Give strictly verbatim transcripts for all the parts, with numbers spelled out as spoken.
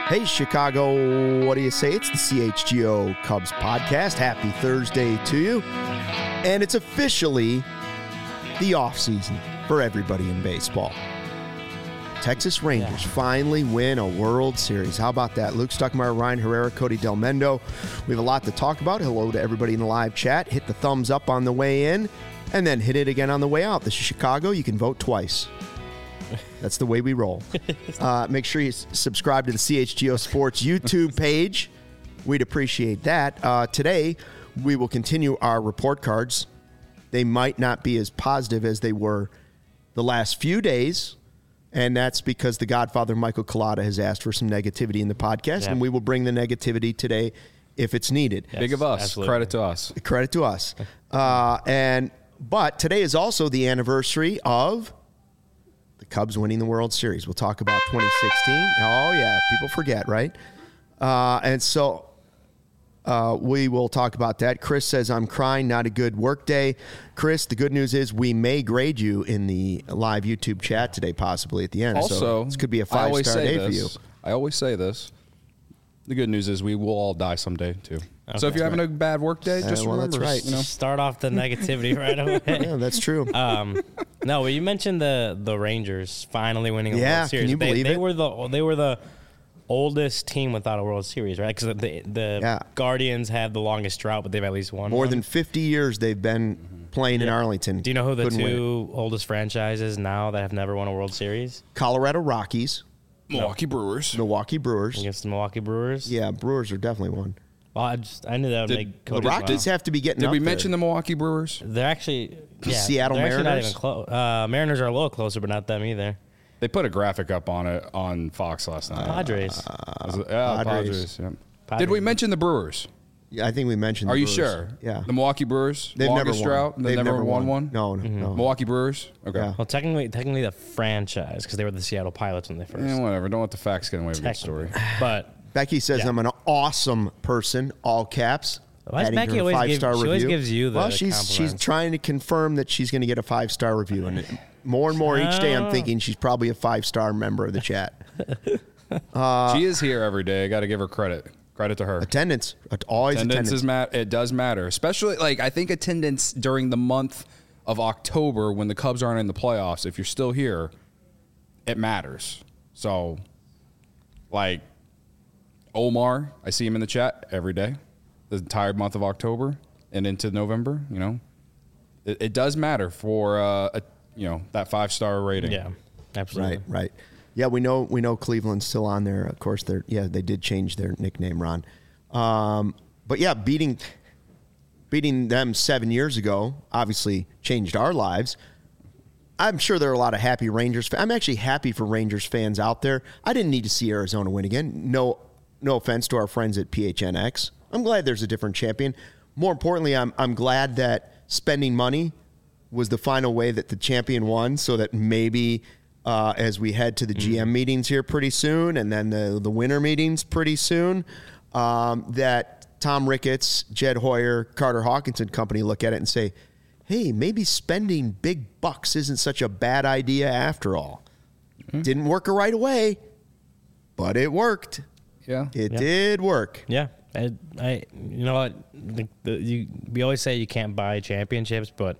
Hey, Chicago, what do you say? It's the C H G O Cubs podcast. Happy Thursday to you. And it's officially the offseason for everybody in baseball. Texas Rangers yeah. finally win a World Series. How about that? Luke Stuckmeyer, Ryan Herrera, Cody Del Mendo. We have a lot to talk about. Hello to everybody in the live chat. Hit the thumbs up on the way in, and then hit it again on the way out. This is Chicago. You can vote twice. That's the way we roll. Uh, make sure you s- subscribe to the C H G O Sports YouTube page. We'd appreciate that. Uh, today, we will continue our report cards. They might not be as positive as they were the last few days, and that's because the Godfather, Michael Collada, has asked for some negativity in the podcast, yep. and we will bring the negativity today if it's needed. Yes, Big of us. Absolutely. Credit to us. Credit to us. Uh, and But today is also the anniversary of the Cubs winning the World Series. We'll talk about twenty sixteen. Oh, yeah. People forget, right? Uh, and so uh, we will talk about that. Chris says, I'm crying, not a good work day. Chris, the good news is we may grade you in the live YouTube chat today, possibly at the end. Also, so this could be a five-star day this, for you. I always say this. The good news is we will all die someday, too. Okay. So if you're having right. a bad work day, just uh, well, remember. That's right. You know? Start off the negativity right away. Yeah, that's true. Um, no, but you mentioned the the Rangers finally winning a yeah, World Series. Can you they, believe they it? were the they were the oldest team without a World Series, right? Because the the yeah. Guardians have the longest drought, but they've at least won more one. than fifty years they've been mm-hmm. playing yeah. in Arlington. Do you know who the Couldn't two win. oldest franchises now that have never won a World Series? Colorado Rockies. Milwaukee no. Brewers. Milwaukee Brewers. Against the Milwaukee Brewers? Yeah, Brewers are definitely one. Well, I just I knew that would Did, make Cody. The Rockies wow. have to be getting Did up we there. mention the Milwaukee Brewers? They're actually yeah, Seattle they're Mariners. Actually not even close. Uh, Mariners are a little closer, but not them either. They put a graphic up on it on Fox last night. Padres. Uh, it, yeah, Padres. Padres. Yeah. Padres. Did we mention the Brewers? Yeah, I think we mentioned. Are the you Brewers. sure? Yeah. The Milwaukee Brewers. They've never longest won. drought. They've, They've never, never won, won one. No, no, mm-hmm. no. Milwaukee Brewers. Okay. Yeah. Well, technically, technically the franchise because they were the Seattle Pilots when they first. Yeah, whatever. Don't let the facts get away with the story. But Becky says yeah. I'm an awesome person. All caps. Why does Becky always give? She review. always gives you the. Well, she's she's trying to confirm that she's going to get a five star review, and more and more each day, I'm thinking she's probably a five star member of the chat. Uh, she is here every day. I got to give her credit. Credit to her. Attendance, always attendance. Attendance is ma- It does matter, especially like I think attendance during the month of October when the Cubs aren't in the playoffs. If you're still here, it matters. So, like Omar, I see him in the chat every day, the entire month of October and into November. You know, it, it does matter for uh, a, you know that five star rating. Yeah, absolutely. Right, right. Yeah, we know we know Cleveland's still on there. Of course, they're yeah they did change their nickname, Ron. Um, but yeah, beating beating them seven years ago obviously changed our lives. I'm sure there are a lot of happy Rangers fans. I'm actually happy for Rangers fans out there. I didn't need to see Arizona win again. No, no offense to our friends at P H N X. I'm glad there's a different champion. More importantly, I'm I'm glad that spending money was the final way that the champion won, so that maybe. Uh, as we head to the G M meetings here pretty soon, and then the the winter meetings pretty soon, um, that Tom Ricketts, Jed Hoyer, Carter Hawkinson company look at it and say, hey, maybe spending big bucks isn't such a bad idea after all. Mm-hmm. Didn't work right away, but it worked. Yeah. It yeah. did work. Yeah. I, I you know what? The, the, you, we always say you can't buy championships, but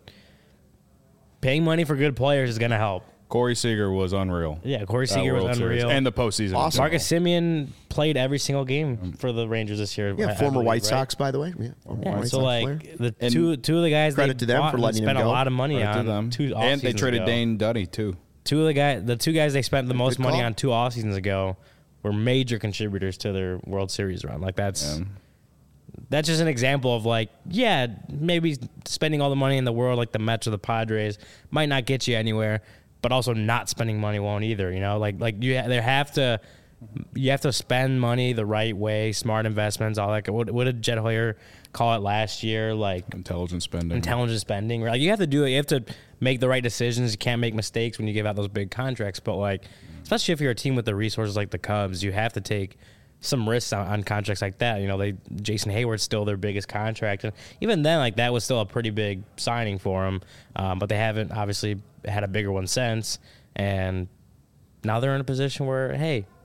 paying money for good players is going to help. Corey Seager was unreal. Yeah, Corey Seager was unreal. Series. And the postseason. Awesome. Marcus Semien played every single game for the Rangers this year. Yeah, I, former I believe, White right? Sox, by the way. Yeah, yeah White so, Sox like, player. the and two two of the guys credit they to them bought for letting spent him go. a lot of money credit on them. two off And they seasons traded ago. Dane Duddy, too. Two of the guys, the two guys they spent the most Good money call. on two off seasons ago were major contributors to their World Series run. Like, that's... Yeah. That's just an example of, like, yeah, maybe spending all the money in the world like the Mets or the Padres might not get you anywhere, but also not spending money won't either, you know? Like, like you there have to you have to spend money the right way, smart investments, all that. What, what did Jed Hoyer call it last year? Like intelligent spending. Intelligent spending. Right? Like, you have to do it. You have to make the right decisions. You can't make mistakes when you give out those big contracts. But, like, especially if you're a team with the resources like the Cubs, you have to take some risks on, on contracts like that. You know, they Jason Hayward's still their biggest contract, and even then, like, that was still a pretty big signing for them. Um, but they haven't obviously had a bigger one since, and now they're in a position where, hey,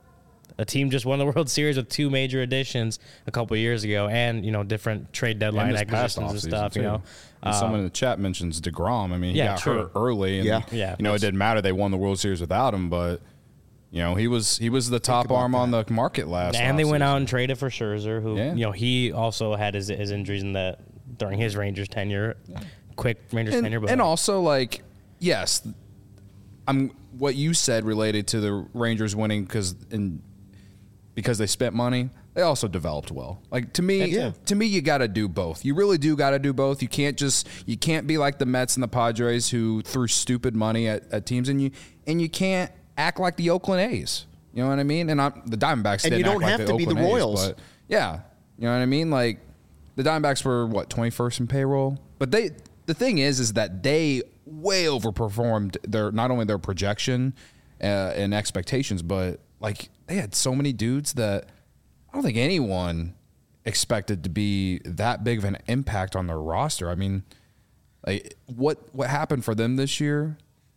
a team just won the World Series with two major additions a couple of years ago, and you know different trade deadline And this past acquisitions and offseason, stuff. too. You know, And someone in the chat mentions DeGrom. I mean, he yeah, got true. hurt early, and Yeah. Yeah. you know it didn't matter. They won the World Series without him, but you know he was he was the top arm on the market last. and they went offseason. out and traded for Scherzer, who Yeah. you know he also had his, his injuries in the during his Rangers tenure, quick Rangers and, tenure, but and also like yes, I'm what you said related to the Rangers winning because in because they spent money. They also developed well. Like to me, Yeah. to me, you got to do both. You really do got to do both. You can't just you can't be like the Mets and the Padres who threw stupid money at, at teams, and you and you can't act like the Oakland A's. You know what I mean? And I'm, the Diamondbacks And didn't you don't act like have to be Oakland the A's, Royals. but yeah, you know what I mean. Like the Diamondbacks were what twenty-first in payroll, but they the thing is is that they way overperformed their not only their projection uh, and expectations, but like they had so many dudes that I don't think anyone expected to be that big of an impact on their roster. I mean, like what what happened for them this year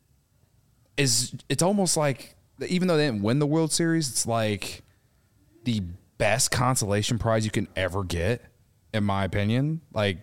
is it's almost like even though they didn't win the World Series, it's like the best consolation prize you can ever get, in my opinion. Like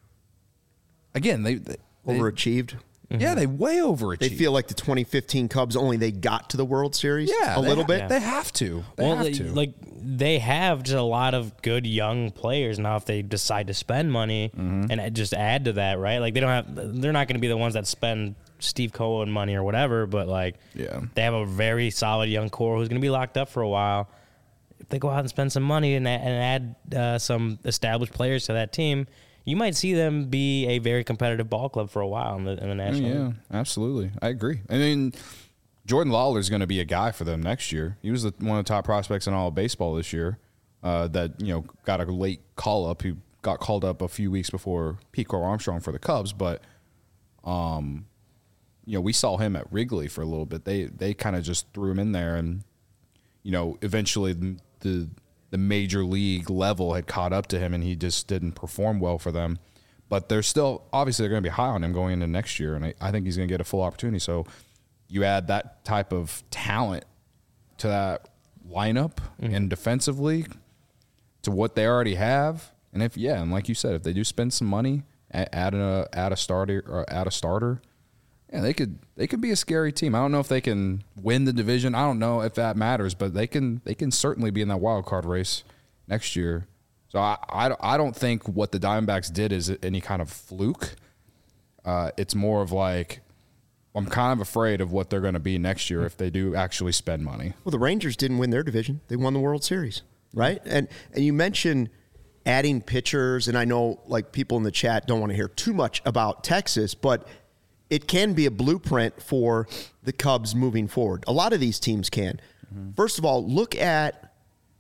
again, they, they Overachieved. yeah, they way overachieved. They feel like the twenty fifteen Cubs only they got to the World Series. yeah, a they little ha- bit. They have to. They well, have they- to. like they have just a lot of good young players now. If they decide to spend money Mm-hmm. and just add to that, right? Like they don't have, they're not going to be the ones that spend Steve Cohen money or whatever. But like, Yeah. they have a very solid young core who's going to be locked up for a while. If they go out and spend some money and, a- and add uh, some established players to that team, you might see them be a very competitive ball club for a while in the, in the National Yeah, League. absolutely. I agree. I mean, Jordan Lawler is going to be a guy for them next year. He was the, one of the top prospects in all of baseball this year. Uh, that you know got a late call up. He got called up a few weeks before Pico Armstrong for the Cubs, but um, you know we saw him at Wrigley for a little bit. They they kind of just threw him in there, and you know eventually the, the the major league level had caught up to him, and he just didn't perform well for them. But they're still obviously they're going to be high on him going into next year, and I, I think he's going to get a full opportunity. So you add that type of talent to that lineup Mm-hmm. and defensively to what they already have, and if yeah, and like you said, if they do spend some money, add, add a add a starter or add a starter, yeah, they could they could be a scary team. I don't know if they can win the division. I don't know if that matters, but they can they can certainly be in that wild card race next year. So I I, I don't think what the Diamondbacks did is any kind of fluke. Uh, it's more of like I'm kind of afraid of what they're going to be next year if they do actually spend money. Well, the Rangers didn't win their division; they won the World Series, right? And and you mentioned adding pitchers, and I know like people in the chat don't want to hear too much about Texas, but it can be a blueprint for the Cubs moving forward. A lot of these teams can. Mm-hmm. First of all, look at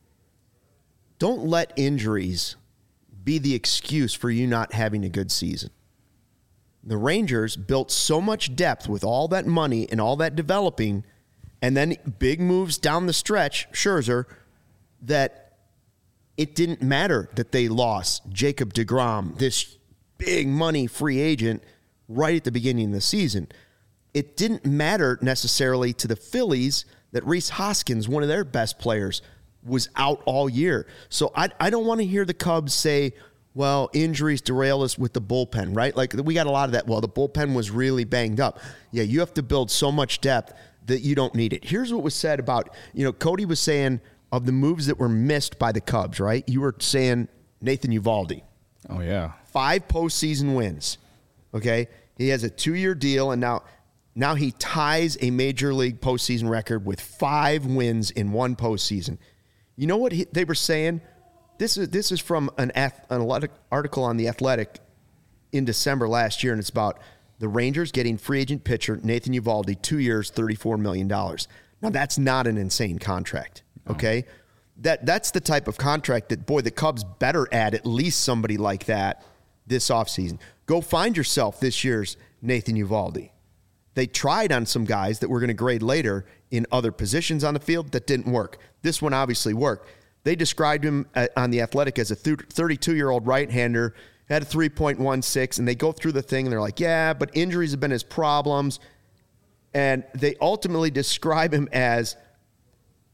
don't let injuries be the excuse for you not having a good season. The Rangers built so much depth with all that money and all that developing, and then big moves down the stretch, Scherzer, that it didn't matter that they lost Jacob deGrom, this big money free agent, right at the beginning of the season. It didn't matter necessarily to the Phillies that Rhys Hoskins, one of their best players, was out all year. So I, I don't want to hear the Cubs say, well, injuries derail us with the bullpen, right? Like we got a lot of that. Well, the bullpen was really banged up. Yeah, you have to build so much depth that you don't need it. Here's what was said about, you know, Cody was saying of the moves that were missed by the Cubs, right? You were saying Nathan Eovaldi. Oh, yeah. Five postseason wins, okay? He has a two-year deal, and now now he ties a major league postseason record with five wins in one postseason. You know what he, they were saying? This is this is from an, ath, an article on The Athletic in December last year, and it's about the Rangers getting free agent pitcher Nathan Eovaldi, two years, thirty-four million dollars. Now, that's not an insane contract, okay? No. That That's the type of contract that, boy, the Cubs better add at least somebody like that this offseason. Go find yourself this year's Nathan Eovaldi. They tried on some guys that we're going to grade later in other positions on the field that didn't work. This one obviously worked. They described him on The Athletic as a thirty-two-year-old right-hander, had a three point one six, and they go through the thing, and they're like, yeah, but injuries have been his problems. And they ultimately describe him as,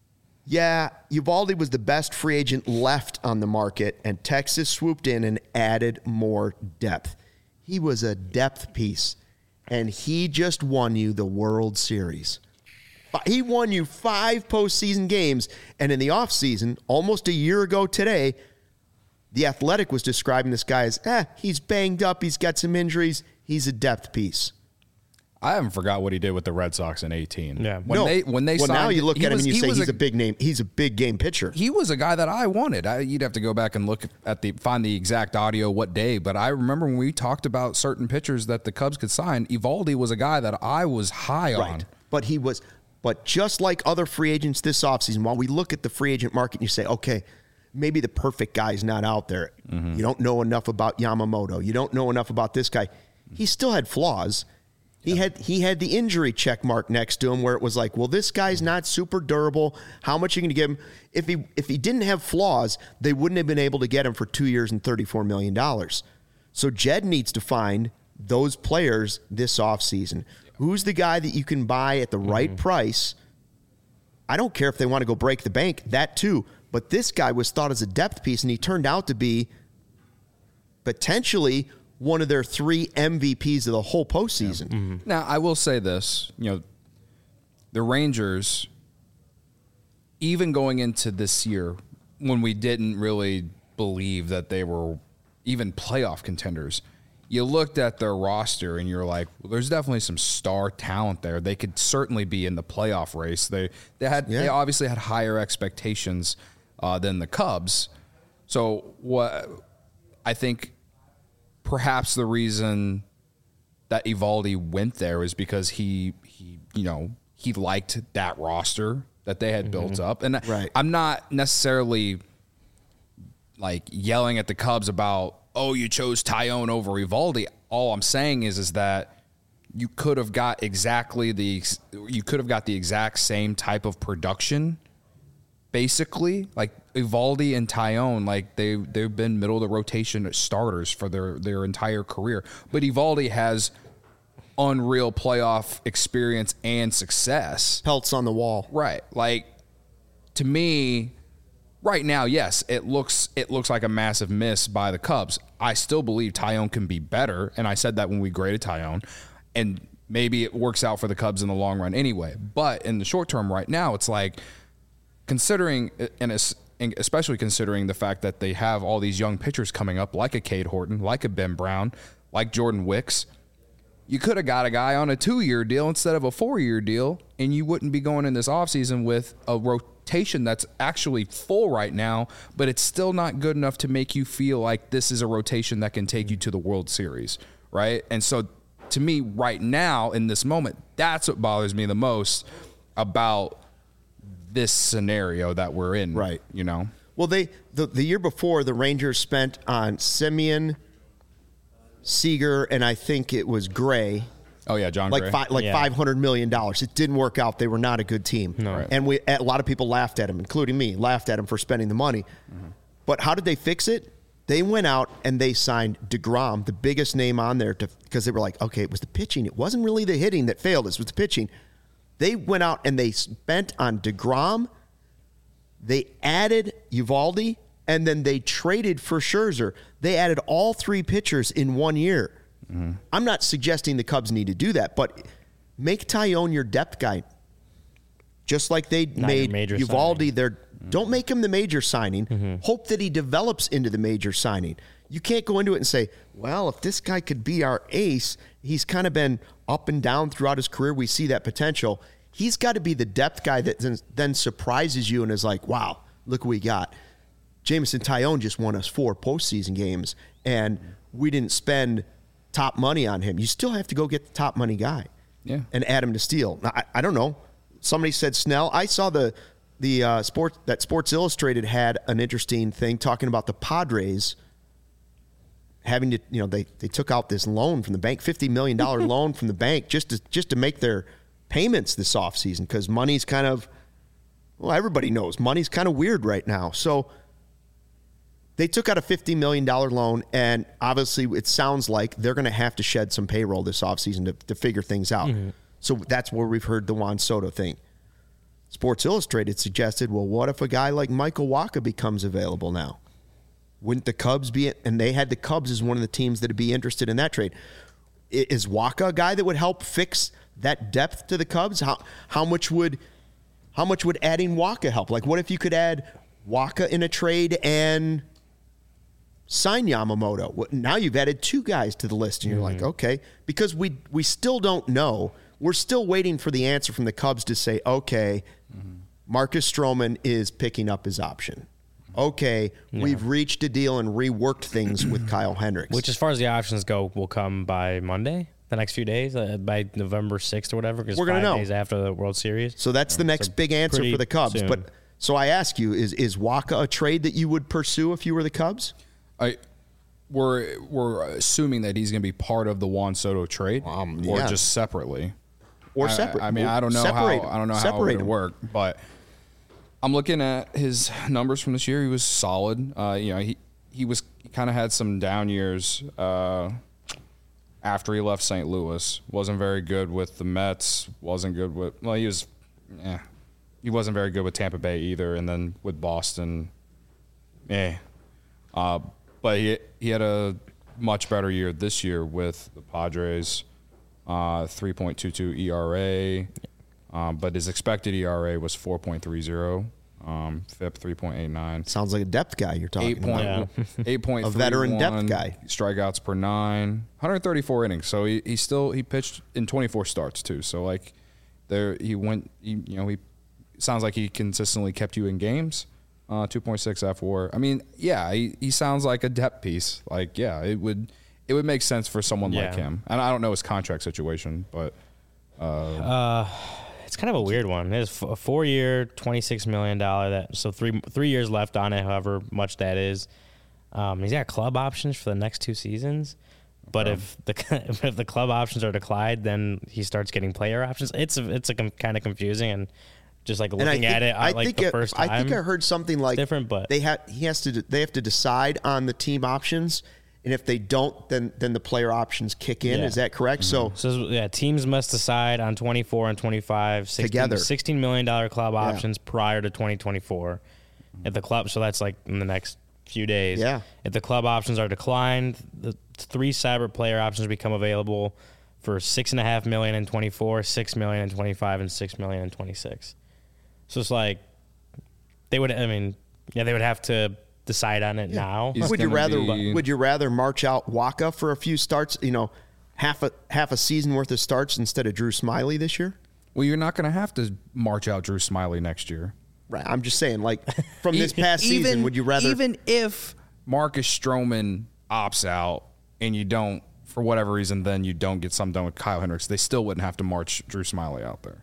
Yeah, Uvalde was the best free agent left on the market, and Texas swooped in and added more depth. He was a depth piece, and he just won you the World Series. He won you five postseason games, and in the offseason, almost a year ago today, The Athletic was describing this guy as, eh, he's banged up, he's got some injuries, he's a depth piece. I haven't forgot what he did with the Red Sox in eighteen. Yeah. When no. they when they well, signed, now you look he at him was- and you he say was he's a, a big name. He's a big game pitcher. He was a guy that I wanted. I, you'd have to go back and look at the find the exact audio what day, but I remember when we talked about certain pitchers that the Cubs could sign. Evaldi was a guy that I was high on. Right. But he was, but just like other free agents this offseason, while we look at the free agent market and you say, okay, maybe the perfect guy is not out there. Mm-hmm. You don't know enough about Yamamoto. You don't know enough about this guy. He still had flaws. He had he had the injury check mark next to him where it was like, well, this guy's not super durable. How much are you going to give him? If he if he didn't have flaws, they wouldn't have been able to get him for two years and thirty-four million dollars. So Jed needs to find those players this offseason. Who's the guy that you can buy at the right price? I don't care if they want to go break the bank, that too. But this guy was thought as a depth piece, and he turned out to be potentially one of their three M V Ps of the whole postseason. Yeah. Mm-hmm. Now, I will say this, you know, the Rangers, even going into this year, when we didn't really believe that they were even playoff contenders, you looked at their roster and you're like, well, there's definitely some star talent there. They could certainly be in the playoff race. They they had Yeah. they obviously had higher expectations uh, than the Cubs. So what I think perhaps the reason that Evaldi went there is because he he you know he liked that roster that they had mm-hmm. built up, and right. I'm not necessarily like yelling at the Cubs about, oh, you chose Tyone over Evaldi. All I'm saying is is that you could have got exactly the you could have got the exact same type of production. Basically, like Evaldi and Tyone, like they they've been middle of the rotation starters for their their entire career. But Evaldi has unreal playoff experience and success. Pelts on the wall. Right. Like to me, right now, yes, it looks it looks like a massive miss by the Cubs. I still believe Tyone can be better, and I said that when we graded Tyone, and maybe it works out for the Cubs in the long run anyway. But in the short term, right now, it's like, considering, and especially considering the fact that they have all these young pitchers coming up, like a Cade Horton, like a Ben Brown, like Jordan Wicks, you could have got a guy on a two-year deal instead of a four-year deal, and you wouldn't be going in this offseason with a rotation that's actually full right now, but it's still not good enough to make you feel like this is a rotation that can take you to the World Series, right? And so to me, right now, in this moment, that's what bothers me the most about this scenario that we're in, right? You know, well, they the, the year before the Rangers spent on Simeon, Seager, and I think it was Gray. Oh yeah, John like Gray. Fi- like yeah. five hundred million dollars. It didn't work out. They were not a good team, no. Right. And we a lot of people laughed at him, including me, laughed at him for spending the money. Mm-hmm. But how did they fix it? They went out and they signed DeGrom, the biggest name on there, to because they were like, okay, it was the pitching. It wasn't really the hitting that failed us. It was the pitching. They went out and they spent on DeGrom. They added Evaldi, and then they traded for Scherzer. They added all three pitchers in one year. Mm-hmm. I'm not suggesting the Cubs need to do that, but make Tyone your depth guy. Just like they Not made major Evaldi signing. their mm-hmm. Don't make him the major signing. Mm-hmm. Hope that he develops into the major signing. You can't go into it and say, well, if this guy could be our ace, he's kind of been up and down throughout his career. We see that potential. He's got to be the depth guy that then, then surprises you and is like, wow, look what we got. Jameson Tyone just won us four postseason games, and we didn't spend top money on him. You still have to go get the top money guy, yeah, and add him to Steele. Now, I, I don't know. Somebody said Snell. I saw the the uh, sport that Sports Illustrated had an interesting thing talking about the Padres having to, you know, they, they took out this loan from the bank, fifty million dollars loan from the bank just to just to make their payments this offseason because money's kind of, well, everybody knows money's kind of weird right now. So they took out a fifty million dollars loan, and obviously it sounds like they're going to have to shed some payroll this offseason to, to figure things out. Mm-hmm. So that's where we've heard the Juan Soto thing. Sports Illustrated suggested, well, what if a guy like Michael Wacha becomes available now? Wouldn't the Cubs be, and they had the Cubs as one of the teams that would be interested in that trade. Is Wacha a guy that would help fix that depth to the Cubs? How how much would how much would adding Wacha help? Like, what if you could add Wacha in a trade and sign Yamamoto? Now you've added two guys to the list, and you're mm-hmm. like, okay, because we we still don't know. We're still waiting for the answer from the Cubs to say, okay, mm-hmm. Marcus Stroman is picking up his option. Okay, yeah. we've reached a deal and reworked things with Kyle Hendricks. Which, as far as the options go, will come by Monday, the next few days, uh, by November sixth or whatever, because we're five gonna know. days after the World Series. So that's the next so big answer for the Cubs. Soon. But so I ask you, is is Wacha a trade that you would pursue if you were the Cubs? I we're we're assuming that he's going to be part of the Juan Soto trade, um, yeah. or just separately, or separate. I, I mean, I don't know Separate how I don't know Separate how it would him. work, but I'm looking at his numbers from this year. He was solid. Uh, you know, he he was he kind of had some down years uh, after he left Saint Louis. Wasn't very good with the Mets. Wasn't good with well, he was. Eh, he wasn't very good with Tampa Bay either, and then with Boston, eh. Uh, but he he had a much better year this year with the Padres, uh, three point two two E R A, um, but his expected E R A was four point three zero, um, F I P three point eight nine. Sounds like a depth guy you're talking eight point, about. Yeah. eight point three one, a veteran depth guy. Strikeouts per nine, one hundred thirty-four innings. So he, he still he pitched in twenty-four starts too. So like there he went. He, you know he sounds like he consistently kept you in games. Uh, two point six F W A R. I mean, yeah, he, he sounds like a depth piece. Like, yeah, it would it would make sense for someone yeah. like him. And I don't know his contract situation, but uh, uh, it's kind of a weird one. It's a four-year, twenty-six million dollars. That so three three years left on it, however much that is. Um, he's got club options for the next two seasons. But okay. if the if the club options are declined, then he starts getting player options. It's a, it's a com- kind of confusing and. Just like looking think, at it, I like think the it, first time. I think I heard something like different, but they have he has to they have to decide on the team options, and if they don't, then then the player options kick in. Yeah. Is that correct? Mm-hmm. So, so yeah, teams must decide on twenty-four and twenty-five sixteen, together sixteen million dollar club yeah. options prior to twenty twenty-four. If the club, so that's like in the next few days. Yeah. If the club options are declined, the three cyber player options become available for six and a half million in twenty-four, six million in twenty-five, and six million in twenty-six. So it's like they would. I mean, yeah, they would have to decide on it yeah. now. He's would you rather? Be... Would you rather march out Wacha for a few starts? You know, half a half a season worth of starts instead of Drew Smyly this year. Well, you're not going to have to march out Drew Smyly next year. Right. I'm just saying, like from this past even, season, would you rather? Even if Marcus Stroman opts out and you don't, for whatever reason, then you don't get something done with Kyle Hendricks, they still wouldn't have to march Drew Smyly out there.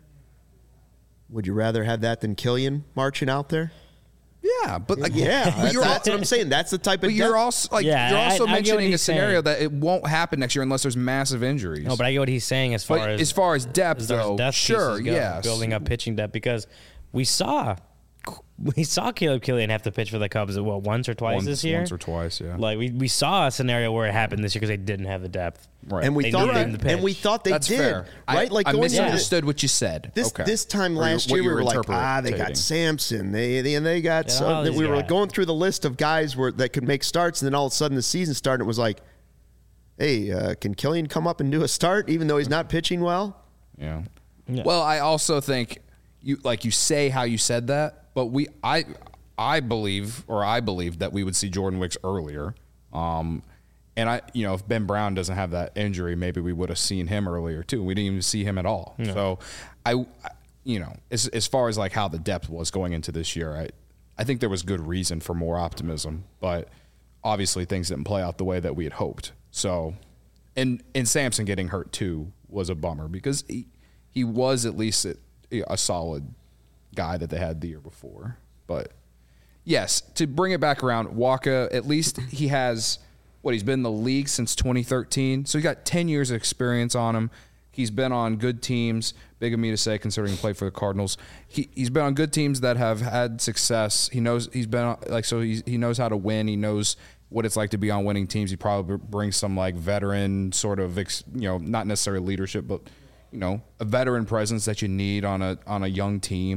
Would you rather have that than Killian marching out there? Yeah, but like, yeah, that's, that's what I'm saying. That's the type of. But you're also like yeah, you're also I, I mentioning a scenario saying. that it won't happen next year unless there's massive injuries. No, but I get what he's saying as far but as as far as depth, as though. depth Sure, go, yes, building up pitching depth because we saw we saw Caleb Killian have to pitch for the Cubs what once or twice once, this year. Once or twice, yeah. Like we, we saw a scenario where it happened this year because they didn't have the depth. Right. And we they thought they, the and we thought they That's did. fair. Right? I, like I going misunderstood into what you said. This okay. this time Or last what year you we were were like, ah, they got interpreting. Sampson. They, they and they got Yeah, so, all these we were guys. going through the list of guys where that could make starts, and then all of a sudden the season started. It was like, hey, uh, can Killian come up and do a start even though he's not pitching well? Yeah. Yeah. Well, I also think you like you say how you said that, but we I I believe or I believe that we would see Jordan Wicks earlier. Um, and I you know if Ben Brown doesn't have that injury, maybe we would have seen him earlier too. We didn't even see him at all. Yeah. So I you know as as far as like how the depth was going into this year, I I think there was good reason for more optimism, but obviously things didn't play out the way that we had hoped. So and and Sampson getting hurt too was a bummer because he he was at least a, a solid guy that they had the year before. But yes, to bring it back around, Wacha, at least he has, what, he's been in the league since twenty thirteen. So he got ten years of experience on him. He's been on good teams, big of me to say considering he played for the Cardinals. He, he's been on good teams that have had success. He knows he's been, like, so he, he knows how to win. He knows what it's like to be on winning teams. He probably brings some, like, veteran sort of, you know, not necessarily leadership, but, you know, a veteran presence that you need on a on a young team.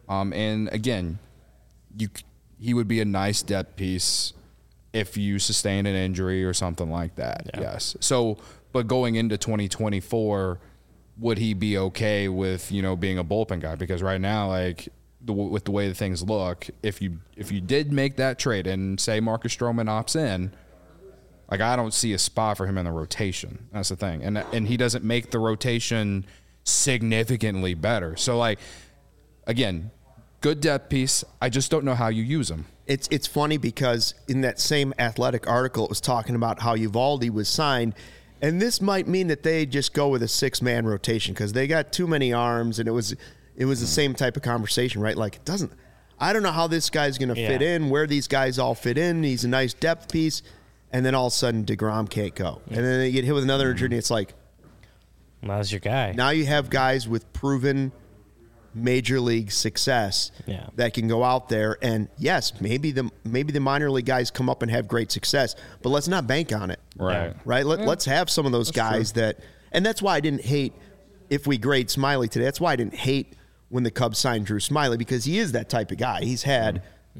Um, and again, you he would be a nice depth piece if you sustain an injury or something like that. Yeah. Yes. So, but going into twenty twenty-four, would he be okay with, you know, being a bullpen guy? Because right now, like the, with the way that things look, if you if you did make that trade and say Marcus Stroman opts in, like I don't see a spot for him in the rotation. That's the thing, and and he doesn't make the rotation significantly better. So like, again, good depth piece. I just don't know how you use him. It's it's funny because in that same Athletic article, it was talking about how Uvalde was signed, and this might mean that they just go with a six-man rotation because they got too many arms, and it was it was the same type of conversation, right? Like it doesn't. I don't know how this guy's going to Yeah. fit in, where these guys all fit in. He's a nice depth piece, and then all of a sudden DeGrom can't go, and then they get hit with another injury, and it's like Well, that's your guy. now you have guys with proven major league success Yeah. that can go out there and yes, maybe the maybe the minor league guys come up and have great success, but let's not bank on it. Right. Right? Let, let's have some of those guys that and that's why I didn't hate if we grade Smiley today. That's why I didn't hate when the Cubs signed Drew Smiley because he is that type of guy. He's had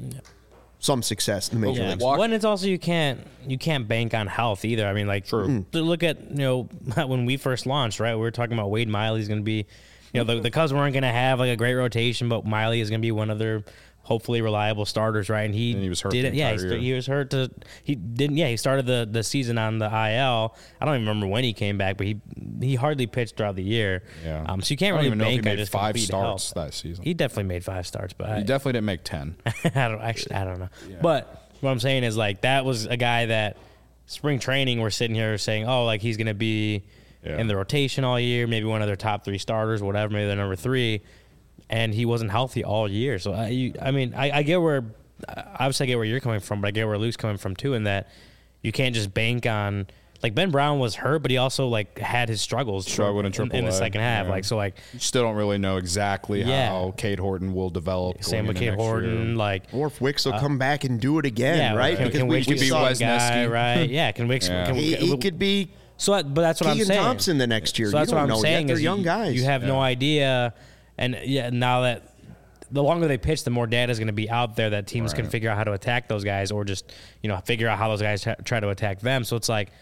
some success in the major Yeah. leagues. Walk- When it's also you can't you can't bank on health either. I mean, like True. to look at you know when we first launched, right? We were talking about Wade Miley's going to be, you know, the, the Cubs weren't going to have like a great rotation, but Miley is going to be one of their hopefully reliable starters, right? And he, And he was hurt Did the it, yeah, he, entire st- year. he was hurt to he didn't. Yeah, he started the, the season on the I L. I don't even remember when he came back, but he he hardly pitched throughout the year. Yeah. Um. So you can't I don't really even know if he bank on made just five complete starts health. that season. He definitely made five starts, but I, He definitely didn't make ten. I don't actually. I don't know. But what I'm saying is like that was a guy that spring training we're sitting here saying, oh, like he's gonna be Yeah. in the rotation all year, maybe one of their top three starters, whatever, maybe they're number three, and he wasn't healthy all year. So I, you, I mean, I, I get where obviously I get where you're coming from, but I get where Luke's coming from too, in that you can't just bank on. Like Ben Brown was hurt, but he also like had his struggles Struggled in in, in the triple A, second half. yeah. Like so, like You still don't really know exactly Yeah. how Cade Horton will develop. same going with into Cade next Horton, year. like Or if Wicks will come back and do it again, yeah, right? Can, Because can we, Wicks we could be saw the guy, Wesneski. right? Yeah, can Wicks? Yeah. Can, he, can- he could be So, that, but that's what I'm Keegan saying. Thompson the next year. So that's You what don't I'm know saying. yet. They're is young you, guys. You have no Yeah. idea, and yeah, now that the longer they pitch, the more data is going to be out there that teams can Right. figure out how to attack those guys, or just you know figure out how those guys ha- try to attack them. So it's like,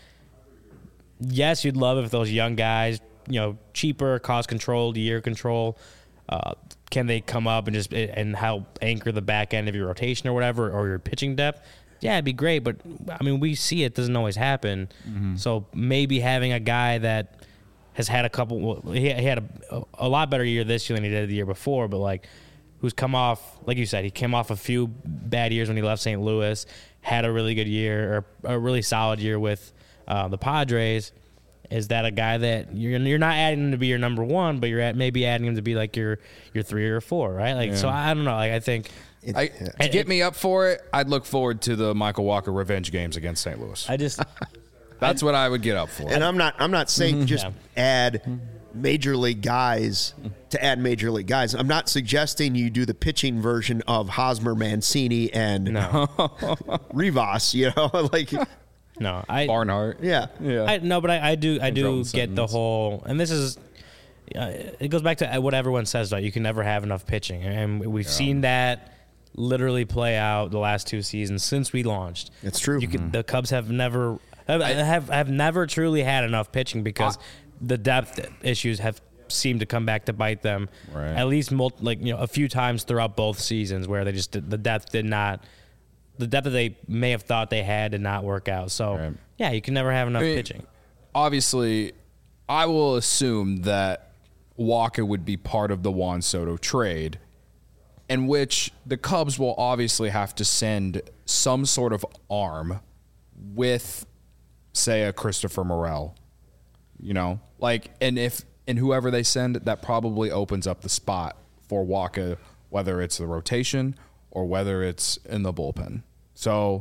yes, you'd love if those young guys, you know, cheaper, cost controlled, year control. Uh, can they come up and just and help anchor the back end of your rotation or whatever, or your pitching depth? Yeah, it'd be great, but I mean, we see it doesn't always happen. So maybe having a guy that has had a couple, well, he, he had a, a lot better year this year than he did the year before, but like, who's come off, like you said, he came off a few bad years when he left Saint Louis, had a really good year or a really solid year with uh, the Padres. Is that a guy that you're you're not adding him to be your number one, but you're at maybe adding him to be like your your three or four, right? Like, so I don't know. Like, I think. It- I, yeah. to get me up for it, I'd look forward to the Michael Walker revenge games against Saint Louis. I just That's what I would get up for. And I'm not I'm not saying just Yeah. add major league guys to add major league guys. I'm not suggesting you do the pitching version of Hosmer, Mancini, and no, Rivas. You know, like no. I Barnhart. yeah, Yeah. I no, but I, I do I do Jordan get the Simmons. whole, and this is uh, it goes back to what everyone says, right? You can never have enough pitching, and we've seen that literally play out the last two seasons since we launched. It's true. You can, the Cubs have never have, have have never truly had enough pitching because the depth issues have seemed to come back to bite them. Right. At least mul- like you know a few times throughout both seasons where they just did, the depth did not. The depth that they may have thought they had did not work out. So, Right. yeah, you can never have enough I mean, pitching. Obviously, I will assume that Walker would be part of the Juan Soto trade, in which the Cubs will obviously have to send some sort of arm with, say, a Christopher Morel. You know, like, and if and whoever they send, that probably opens up the spot for Walker, whether it's the rotation or whether it's in the bullpen. So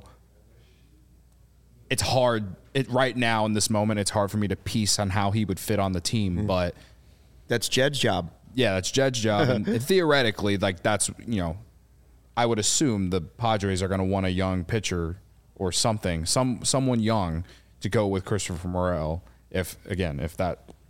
it's hard. It right now in this moment, it's hard for me to piece on how he would fit on the team. But that's Jed's job. yeah, that's Jed's job, and theoretically, like that's you know, I would assume the Padres are going to want a young pitcher or something, some someone young to go with Christopher Morel. If again, if that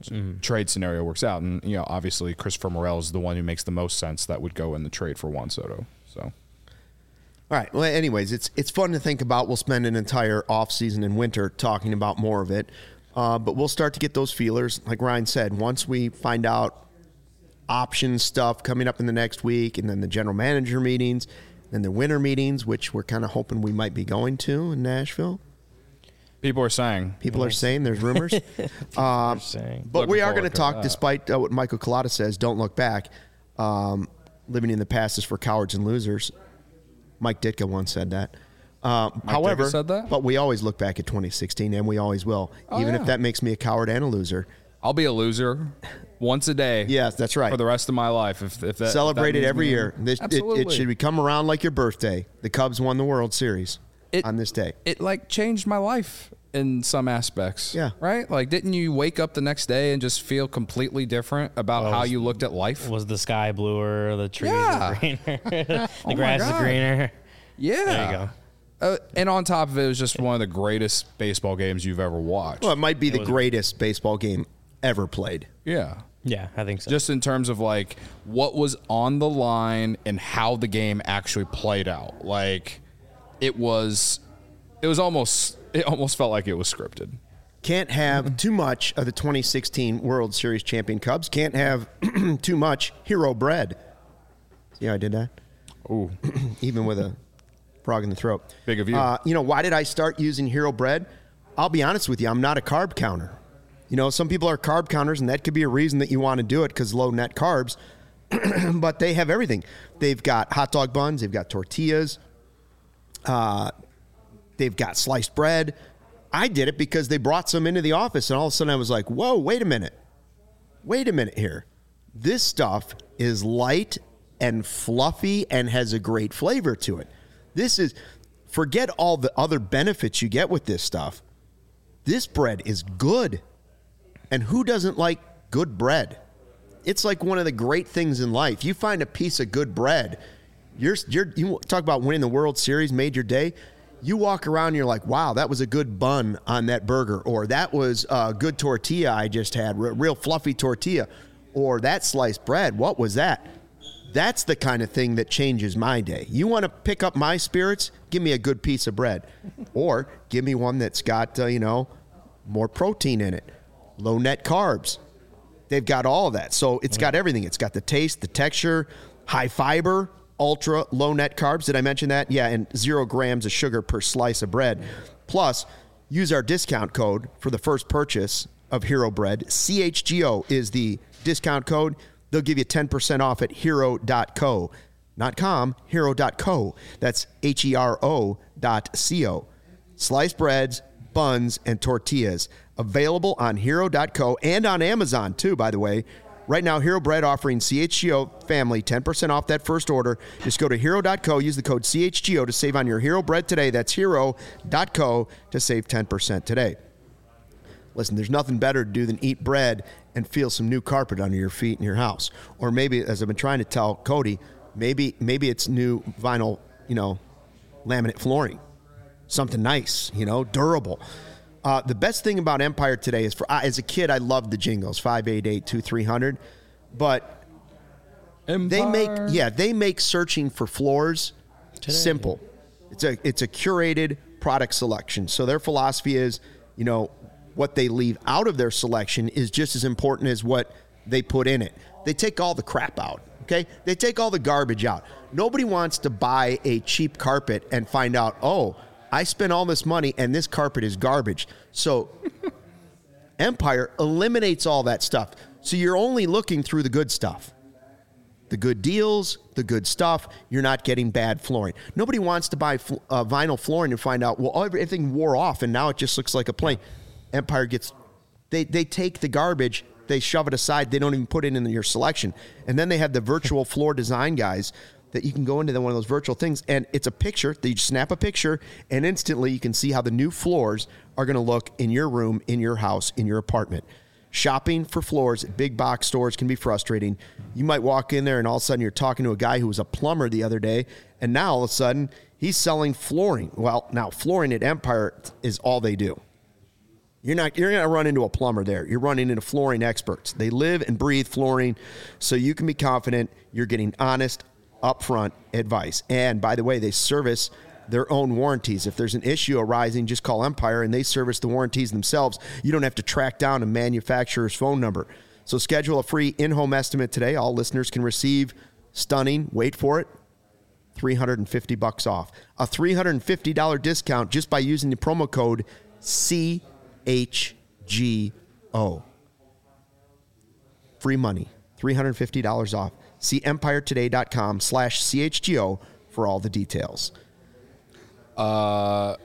mm. trade scenario works out. And, you know, obviously Christopher Morel is the one who makes the most sense that would go in the trade for Juan Soto. So, all right. Well, anyways, it's it's fun to think about. We'll spend an entire offseason and winter talking about more of it. Uh, but we'll start to get those feelers. Like Ryan said, once we find out option stuff coming up in the next week, and then the general manager meetings, and the winter meetings, which we're kind of hoping we might be going to in Nashville. People are saying. People are saying. There's rumors. um, saying. But Looking we are going to forward to talk, that. despite uh, what Michael Collada says, don't look back. Um, living in the past is for cowards and losers. Mike Ditka once said that. Uh, however, Ditka said that? But we always look back at twenty sixteen, and we always will, Oh, even yeah. if that makes me a coward and a loser. I'll be a loser once a day. Yes, that's right. For the rest of my life. If, if that Celebrate if that it every means me- year. This, it, Absolutely. it should come around like your birthday. The Cubs won the World Series It- on this day. It like changed my life in some aspects. Yeah. Right? Like, didn't you wake up the next day and just feel completely different about Well, how was- you looked at life? Was the sky bluer? The trees Yeah. were greener. the Oh my grass is God. greener. Yeah. There you go. Uh, and on top of it, it was just one of the greatest baseball games you've ever watched. Well, it might be the greatest baseball game ever played. Yeah. Yeah, I think so. Just in terms of like what was on the line and how the game actually played out. Like it was it was almost it almost felt like it was scripted. Can't have too much of the twenty sixteen World Series champion Cubs. Can't have too much hero bread. See how I did that? Ooh. Even with a frog in the throat. Big of you. Uh, you know, why did I start using hero bread? I'll be honest with you. I'm not a carb counter. You know, some people are carb counters, and that could be a reason that you want to do it because low net carbs. But they have everything. They've got hot dog buns. They've got tortillas. Uh, they've got sliced bread. I did it because they brought some into the office, and all of a sudden I was like, whoa, wait a minute. Wait a minute here. This stuff is light and fluffy and has a great flavor to it. This is, forget all the other benefits you get with this stuff. This bread is good. And who doesn't like good bread? It's like one of the great things in life. You find a piece of good bread, you're, you're, you talk about winning the World Series, made your day. You walk around and you're like, wow, that was a good bun on that burger. Or that was a good tortilla I just had, real, real fluffy tortilla. Or that sliced bread, what was that? That's the kind of thing that changes my day. You want to pick up my spirits? Give me a good piece of bread. Or give me one that's got, uh, you know, more protein in it. Low net carbs. They've got all of that. So it's got everything. It's got the taste, the texture, high fiber, ultra low net carbs. Did I mention that? Yeah, and zero grams of sugar per slice of bread. Plus, use our discount code for the first purchase of Hero Bread. C H G O is the discount code. They'll give you ten percent off at hero dot co. Not com, hero dot co. That's H E R O dot C O. Sliced breads, buns, and tortillas. Available on hero dot co and on Amazon, too, by the way. Right now, Hero Bread offering C H G O family ten percent off that first order. Just go to hero dot co, use the code C H G O to save on your Hero Bread today. That's hero dot co to save ten percent today. Listen, there's nothing better to do than eat bread and feel some new carpet under your feet in your house. Or maybe, as I've been trying to tell Cody, maybe maybe it's new vinyl, you know, laminate flooring. Something nice, you know, durable. Uh, the best thing about Empire today is, for uh, as a kid, I loved the jingles, five eight eight, two three hundred. But they make, Empire. yeah, they make searching for floors simple. It's a it's a curated product selection. So their philosophy is, you know, what they leave out of their selection is just as important as what they put in it. They take all the crap out, okay? They take all the garbage out. Nobody wants to buy a cheap carpet and find out, oh, I spent all this money and this carpet is garbage. So Empire eliminates all that stuff. So you're only looking through the good stuff. The good deals, the good stuff. You're not getting bad flooring. Nobody wants to buy fl- uh, vinyl flooring and find out, well, everything wore off and now it just looks like a plane. Empire gets, they, they take the garbage, they shove it aside. They don't even put it in your selection. And then they have the virtual floor design guys that you can go into the, one of those virtual things, and it's a picture that you just snap a picture, and instantly you can see how the new floors are going to look in your room, in your house, in your apartment. Shopping for floors at big box stores can be frustrating. You might walk in there, and all of a sudden you're talking to a guy who was a plumber the other day, and now all of a sudden he's selling flooring. Well, now flooring at Empire is all they do. You're not you're going to run into a plumber there. You're running into flooring experts. They live and breathe flooring, so you can be confident you're getting honest, upfront advice. And by the way, they service their own warranties. If there's an issue arising, just call Empire and they service the warranties themselves. You don't have to track down a manufacturer's phone number. So schedule a free in-home estimate today. All listeners can receive stunning, wait for it, three hundred fifty bucks off. A three hundred fifty dollars discount just by using the promo code C H G O. Free money, three hundred fifty dollars off. See empiretoday.com slash CHGO for all the details. Uh,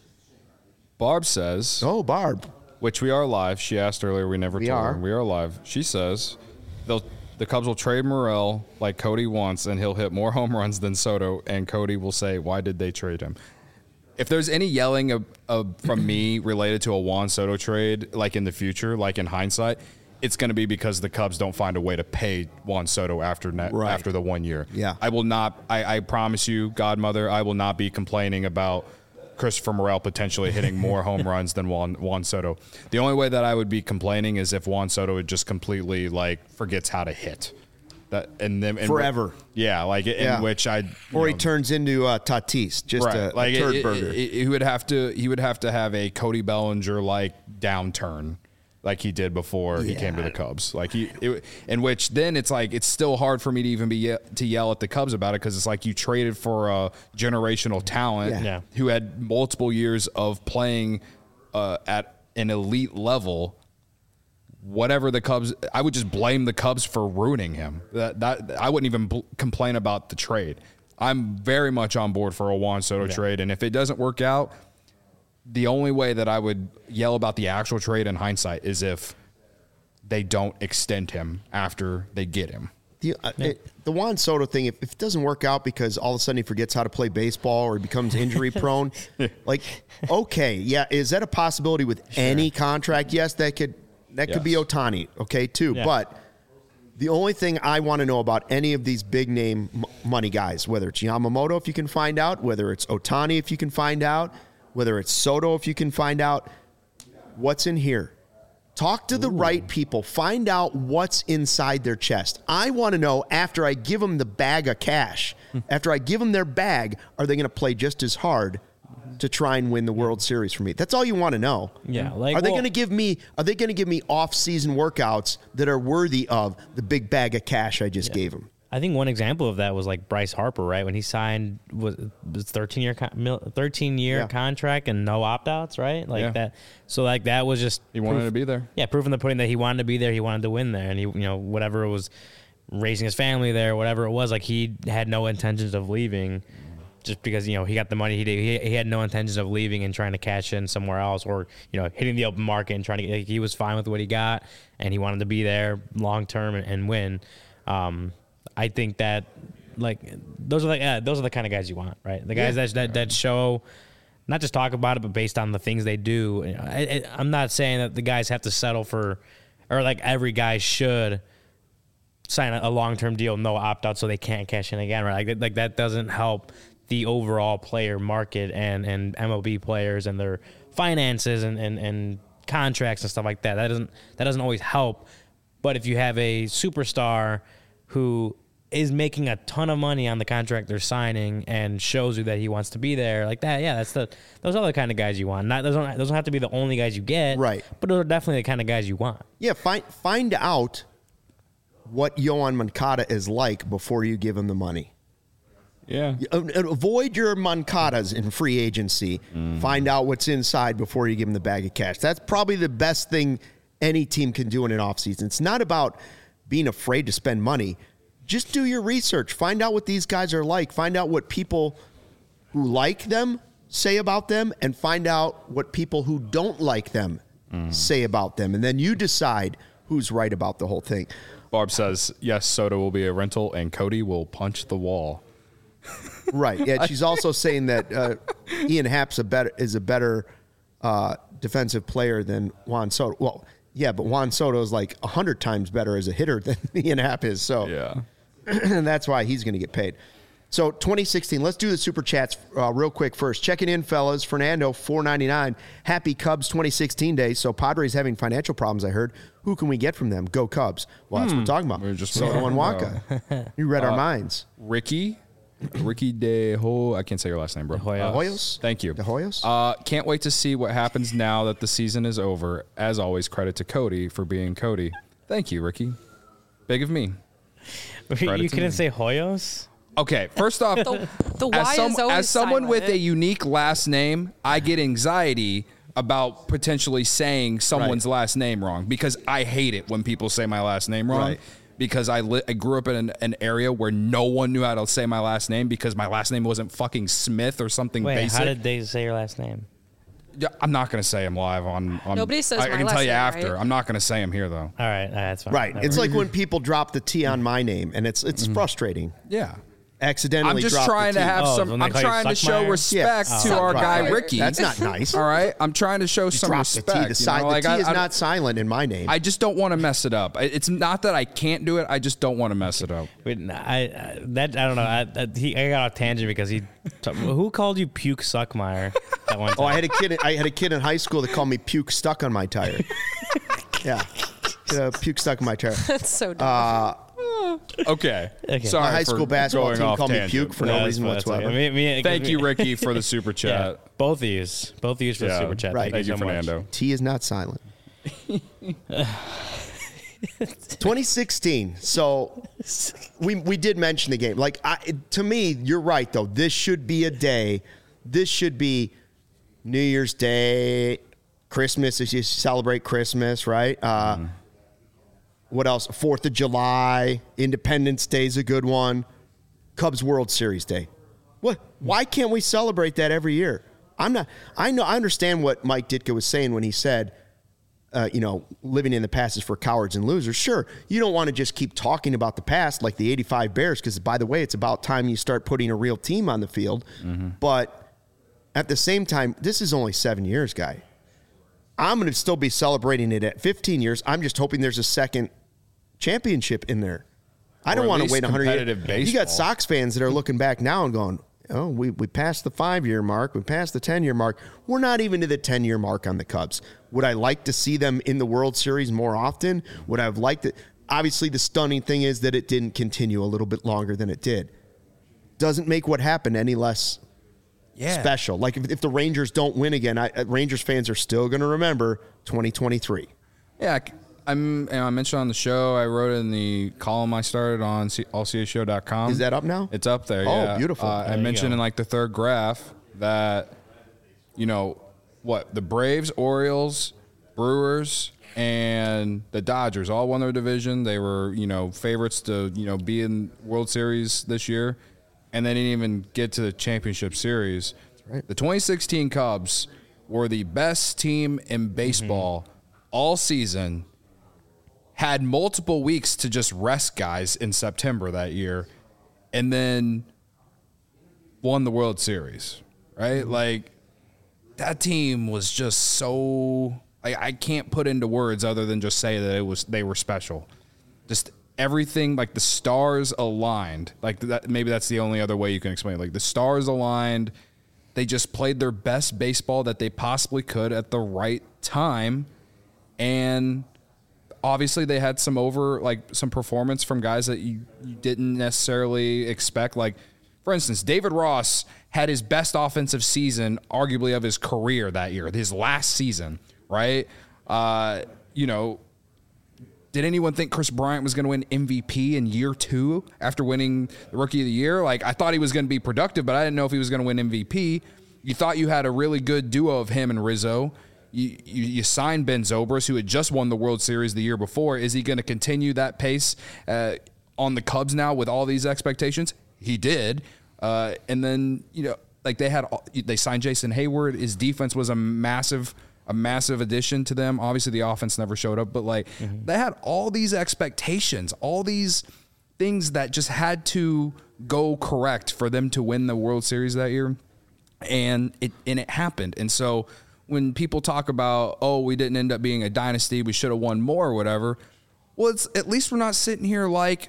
Barb says, Oh, Barb. which we are live. She asked earlier. We never We told are. her. We are live. She says, they'll the Cubs will trade Morel like Cody wants, and he'll hit more home runs than Soto, and Cody will say, why did they trade him? If there's any yelling of, of, from me related to a Juan Soto trade, like in the future, like in hindsight, it's going to be because the Cubs don't find a way to pay Juan Soto after net, Right. after the one year. Yeah. I will not, I, I promise you, Godmother, I will not be complaining about Christopher Morel potentially hitting more home runs than Juan, Juan Soto. The only way that I would be complaining is if Juan Soto would just completely like forgets how to hit. That and then and Forever. Yeah, like in Yeah. which I Or he know, turns into uh, Tatis, just right. a, like a turd it- burger. it- it- he would have to he would have to have a Cody Bellinger like downturn like he did before he came to Yeah. the Cubs. Like he it, in which then it's like it's still hard for me to even be ye- to yell at the Cubs about it because it's like you traded for a generational talent Yeah. Yeah. who had multiple years of playing uh, at an elite level. Whatever the Cubs, I would just blame the Cubs for ruining him. That that I wouldn't even bl- complain about the trade. I'm very much on board for a Juan Soto Yeah. trade, and if it doesn't work out, the only way that I would yell about the actual trade in hindsight is if they don't extend him after they get him. The, uh, it, the Juan Soto thing, if, if it doesn't work out because all of a sudden he forgets how to play baseball or he becomes injury prone, like, okay, yeah, is that a possibility with any contract? Yes, that could that could be Yes. Ohtani, okay, too. Yeah. But the only thing I want to know about any of these big name m- money guys, whether it's Yamamoto, if you can find out, whether it's Ohtani, if you can find out, whether it's Soto, if you can find out, what's in here. Talk to the right people. Find out what's inside their chest. I want to know after I give them the bag of cash, after I give them their bag, are they going to play just as hard to try and win the World Series for me? That's all you want to know. Yeah, like, are they well- going to give me? Are they going to give me off-season workouts that are worthy of the big bag of cash I just gave them? I think one example of that was like Bryce Harper, right? When he signed was was thirteen year thirteen year Yeah. contract and no opt outs, right? Like Yeah. that. So like that was just He wanted proof- to be there. Yeah, proof in the pudding that he wanted to be there. He wanted to win there, and he, you know, whatever it was, raising his family there, whatever it was, like he had no intentions of leaving, just because you know he got the money. He did. He, he had no intentions of leaving and trying to cash in somewhere else, or you know hitting the open market and trying to. Like, he was fine with what he got, and he wanted to be there long term and, and win. Um, I think that like those are like yeah, those are the kind of guys you want, right? The guys Yeah. that, that that show. Not just talk about it, but based on the things they do. You know, I, I, I'm not saying that the guys have to settle for, or like every guy should sign a, a long-term deal, no opt-out, so they can't cash in again, right? Like, like that doesn't help the overall player market and, and M L B players and their finances and, and, and contracts and stuff like that. That doesn't that doesn't always help. But if you have a superstar who is making a ton of money on the contract they're signing and shows you that he wants to be there, like that, yeah, that's the those are the kind of guys you want. Not those don't those don't have to be the only guys you get, Right. But those are definitely the kind of guys you want. Yeah, find find out what Yohan Moncada is like before you give him the money. Yeah. Uh, Avoid your Moncadas in free agency. Find out what's inside before you give them the bag of cash. That's probably the best thing any team can do in an offseason. It's not about being afraid to spend money. Just do your research. Find out what these guys are like. Find out what people who like them say about them, and find out what people who don't like them say about them. And then you decide who's right about the whole thing. Barb says, yes, Soto will be a rental and Cody will punch the wall. Right. Yeah. She's also saying that uh, Ian Happ's a better is a better uh, defensive player than Juan Soto. Well, yeah, but Juan Soto is like a hundred times better as a hitter than Ian Happ is. So Yeah. and that's why he's going to get paid. So twenty sixteen, let's do the super chats uh, real quick first. Checking in, fellas. Fernando, four ninety-nine. Happy Cubs twenty sixteen day. So Padres having financial problems, I heard. Who can we get from them? Go Cubs. Well, that's what we're talking about. We're just Soto and Waka. You read our minds. Ricky, Ricky De Ho. I can't say your last name, bro. Hoyos. Uh, Hoyos? Thank you. The Hoyos? Uh, can't wait to see what happens now that the season is over. As always, credit to Cody for being Cody. Thank you, Ricky. Big of me. You to couldn't me. say Hoyos? Okay, first off, The, the Y as, some, is always as someone with a silent. unique last name, I get anxiety about potentially saying someone's Right. last name wrong because I hate it when people say my last name wrong. Right. Because I, li- I grew up in an, an area where no one knew how to say my last name because my last name wasn't fucking Smith or something Wait, basic. how did they say your last name? Yeah, I'm not going to say him live on. on Nobody says I, I my can last tell you name, after. right? I'm not going to say him here though. All right, all right that's fine. Right. Never It's mind. like when people drop the T on my name, and it's it's frustrating. Yeah. Accidentally I'm just drop the trying to T. have Oh, some. when they I'm call you trying to show Suckmeyer? respect Yeah. to our Suckmeyer. guy Ricky. That's not nice. All right, I'm trying to show some Drop respect. the T. The, you si- know, the like T I- is I- not silent in my name. I just don't want to mess it up. I- It's not that I can't do it. I just don't want to mess it up. Wait, I, I that I don't know. I, I, he, I got off tangent because he. T- who called you Puke Suckmeyer that one time? oh, I had a kid. I had a kid in high school that called me puke stuck on my tire. yeah, uh, puke stuck on my tire. That's so dumb. Okay. Okay. Sorry My high for school basketball going team off called me tangent. puke for no that's reason fine, that's whatsoever. okay. Me- me- Thank you, me- Ricky, for the super Yeah, chat. both of you, both of you for the Yeah. super chat. Right. Thank, Thank you, so much. Fernando. T is not silent. twenty sixteen. So we we did mention the game. Like I, to me, you're right though. This should be a day. This should be New Year's Day, Christmas as you celebrate Christmas, right? Uh, Mm-hmm. What else? Fourth of July, Independence Day is a good one. Cubs World Series Day. What? Why can't we celebrate that every year? I'm not. I know. I understand what Mike Ditka was saying when he said, uh, you know, living in the past is for cowards and losers. Sure, you don't want to just keep talking about the past like the eighty-five Bears, because by the way, it's about time you start putting a real team on the field. But at the same time, this is only seven years, guy. I'm going to still be celebrating it at fifteen years. I'm just hoping there's a second championship in there. I Or don't at want to least wait one hundred competitive years. You got baseball. Sox fans that are looking back now and going, oh, we, we passed the five-year mark. We passed the ten-year mark. We're not even to the ten-year mark on the Cubs. Would I like to see them in the World Series more often? Would I have liked it? Obviously, the stunning thing is that it didn't continue a little bit longer than it did. Doesn't make what happened any less Yeah. special. Like if, if the Rangers don't win again, I, uh, Rangers fans are still going to remember twenty twenty-three. Yeah, I- I'm. You know, I mentioned on the show. I wrote it in the column I started on all c a show dot com. Is that up now? It's up there. Oh, yeah. beautiful. Uh, I There you mentioned go. in like the third graph that, you know, what the Braves, Orioles, Brewers, and the Dodgers all won their division. They were, you know, favorites to, you know, be in World Series this year, and they didn't even get to the championship series. right. The twenty sixteen Cubs were the best team in baseball all season. Had multiple weeks to just rest guys in September that year, and then won the World Series, right? Like, that team was just so I, I can't put into words other than just say that it was they were special. Just everything, like the stars aligned. Like that, maybe that's the only other way you can explain it. Like the stars aligned. They just played their best baseball that they possibly could at the right time, and obviously they had some over like some performance from guys that you, you didn't necessarily expect. Like, for instance, David Ross had his best offensive season arguably of his career that year, his last season, right? Uh, you know, did anyone think Chris Bryant was going to win M V P in year two after winning the Rookie of the Year? Like, I thought he was going to be productive, but I didn't know if he was going to win M V P. You thought you had a really good duo of him and Rizzo. You, you, you signed Ben Zobrist, who had just won the World Series the year before. Is he going to continue that pace uh, on the Cubs now with all these expectations? He did. Uh, and then, you know, like they had, they signed Jason Hayward. His defense was a massive, a massive addition to them. Obviously, the offense never showed up, but like mm-hmm. they had all these expectations, all these things that just had to go correct for them to win the World Series that year. And it, and it happened. And so, when people talk about, oh, we didn't end up being a dynasty, we should have won more or whatever, well, it's at least we're not sitting here like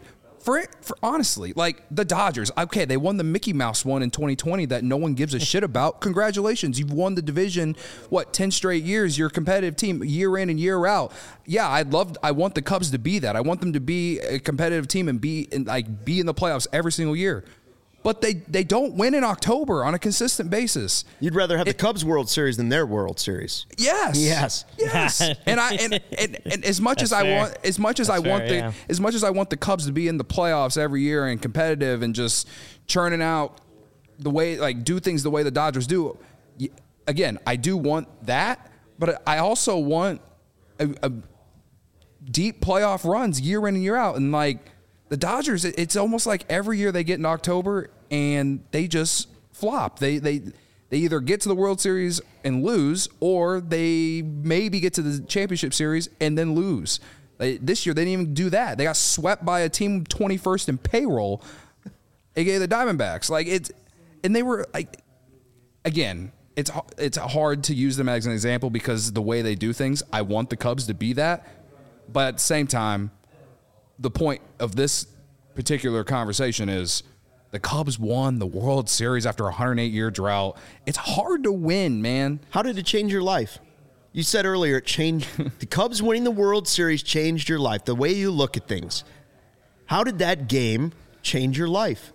for for honestly, like the Dodgers, okay, they won the Mickey Mouse one in twenty twenty that no one gives a shit about. Congratulations, you've won the division. What, ten straight years? You're a competitive team, year in and year out. Yeah, I'd love. I want the Cubs to be that. I want them to be a competitive team and be in, like be in the playoffs every single year. But they, they don't win in October on a consistent basis. You'd rather have It- the Cubs World Series than their World Series. Yes. Yes. Yes. and I and, and, and as much That's as I fair. want as much as I That's want fair, the yeah. as much as I want the Cubs to be in the playoffs every year and competitive and just churning out the way like do things the way the Dodgers do. y- Again, I do want that, but I also want a, a deep playoff runs year in and year out. And like the Dodgers, it- it's almost like every year they get in October and they just flop. They they they either get to the World Series and lose, or they maybe get to the championship series and then lose. They, this year they didn't even do that. They got swept by a team twenty-first in payroll, aka the Diamondbacks. Like it's, and they were like, again, it's it's hard to use them as an example because the way they do things. I want the Cubs to be that, but at the same time, the point of this particular conversation is the Cubs won the World Series after a one hundred eight year drought. It's hard to win, man. How did it change your life? You said earlier it changed. The Cubs winning the World Series changed your life, the way you look at things. How did that game change your life?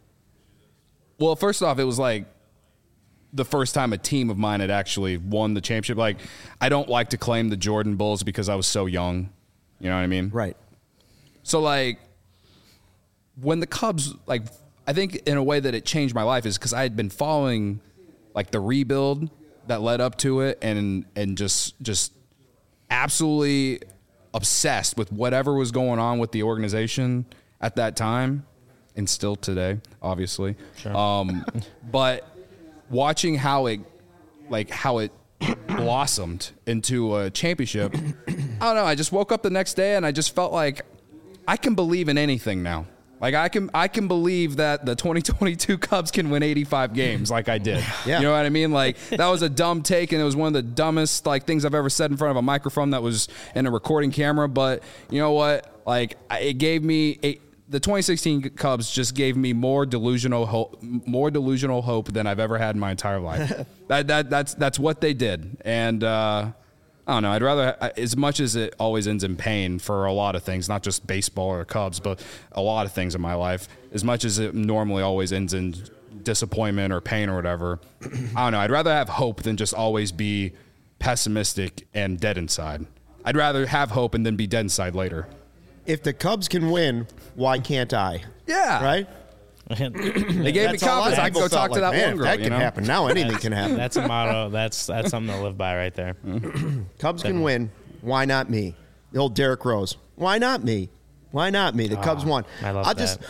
Well, first off, it was like the first time a team of mine had actually won the championship. Like, I don't like to claim the Jordan Bulls because I was so young. You know what I mean? Right. So, like, when the Cubs, like, I think in a way that it changed my life is because I had been following, like, the rebuild that led up to it and and just just absolutely obsessed with whatever was going on with the organization at that time and still today, obviously. Sure. Um, but watching how it, like, how it blossomed into a championship, I don't know. I just woke up the next day and I just felt like I can believe in anything now. Like I can, I can believe that the twenty twenty-two Cubs can win eighty-five games, like I did. Yeah. You know what I mean? Like that was a dumb take, and it was one of the dumbest like things I've ever said in front of a microphone that was in a recording camera. But you know what? Like I- it gave me a, the twenty sixteen Cubs just gave me more delusional hope, more delusional hope than I've ever had in my entire life. that that that's that's what they did, and. uh I don't know. I'd rather, as much as it always ends in pain for a lot of things, not just baseball or Cubs, but a lot of things in my life, as much as it normally always ends in disappointment or pain or whatever, I don't know. I'd rather have hope than just always be pessimistic and dead inside. I'd rather have hope and then be dead inside later. If the Cubs can win, why can't I? Yeah. Right? They gave That's me all a lot of confidence. I can people go talk felt to like, that man, one girl. That you can know? happen. Now anything can happen. That's a motto. That's that's something to live by right there. Cubs can win. Why not me? The old Derrick Rose. Why not me? Why not me? The Cubs won. I love I'll that. just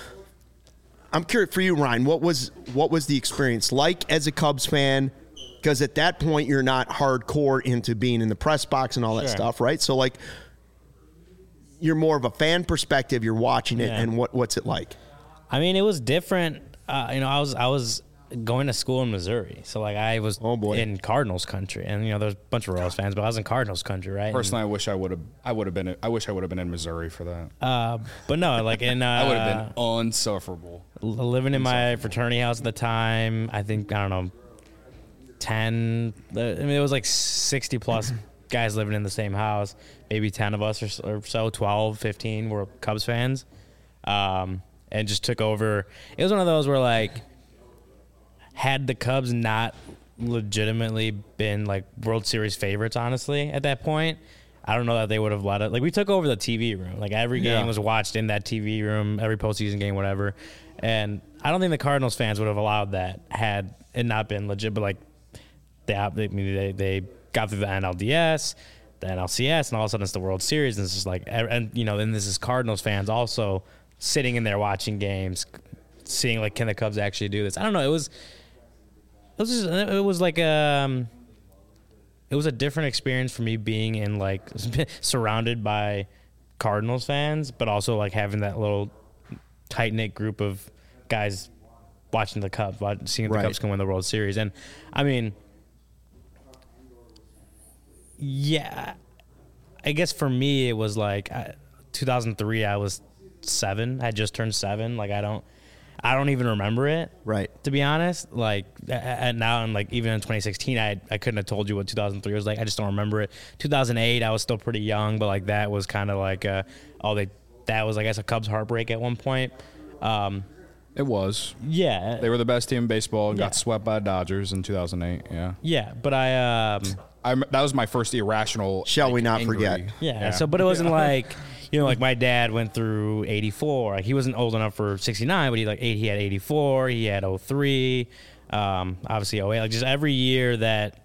I'm curious for you, Ryan. What was what was the experience like as a Cubs fan? Because at that point you're not hardcore into being in the press box and all that Sure. stuff, right? So like you're more of a fan perspective. You're watching it, Yeah. and what what's it like? I mean, it was different. Uh, you know, I was I was going to school in Missouri, so like I was Oh, boy. in Cardinals country, and you know, there's a bunch of Royals fans, but I was in Cardinals country, right? Personally, I wish I would have. I would have been. I wish I would have been in Missouri for that. And, uh, but no, like in uh, I would have been unsufferable. l- living in my fraternity house at the time. I think I don't know, ten. I mean, it was like sixty plus guys living in the same house. Maybe ten of us or, s- or so, twelve, fifteen were Cubs fans, um, and just took over. It was one of those where like, had the Cubs not legitimately been like World Series favorites, honestly, at that point, I don't know that they would have let it. Like we took over the T V room. Like every game Yeah. was watched in that T V room, every postseason game, whatever. And I don't think the Cardinals fans would have allowed that had it not been legit. But like they, I mean, they, they got through the N L D S, the N L C S, and all of a sudden it's the World Series, and it's just like, and you know, then this is Cardinals fans also sitting in there watching games, seeing like, can the Cubs actually do this? I don't know. It was, it was, just, it was like um, it was a different experience for me being in like surrounded by Cardinals fans, but also like having that little tight knit group of guys watching the Cubs, watching, seeing if the Right. Cubs can win the World Series, and I mean. Yeah, I guess for me it was like I, two thousand three. I was seven. I had just turned seven. Like I don't, I don't even remember it. Right. To be honest, like and now and like even in twenty sixteen, I I couldn't have told you what two thousand three was like. I just don't remember it. two thousand eight, I was still pretty young, but like that was kind of like uh, oh they that was I guess a Cubs heartbreak at one point. Um, It was. yeah, They were the best team in baseball and Yeah. got swept by the Dodgers in two thousand eight. Yeah. yeah, but I um. I, that was my first irrational. Shall like, we not angry- forget? Yeah, So, but it wasn't like, you know, like my dad went through eighty-four. Like he wasn't old enough for sixty-nine, but he like eight. He had eighty-four. He had oh three. Um, obviously oh eight. Like just every year that.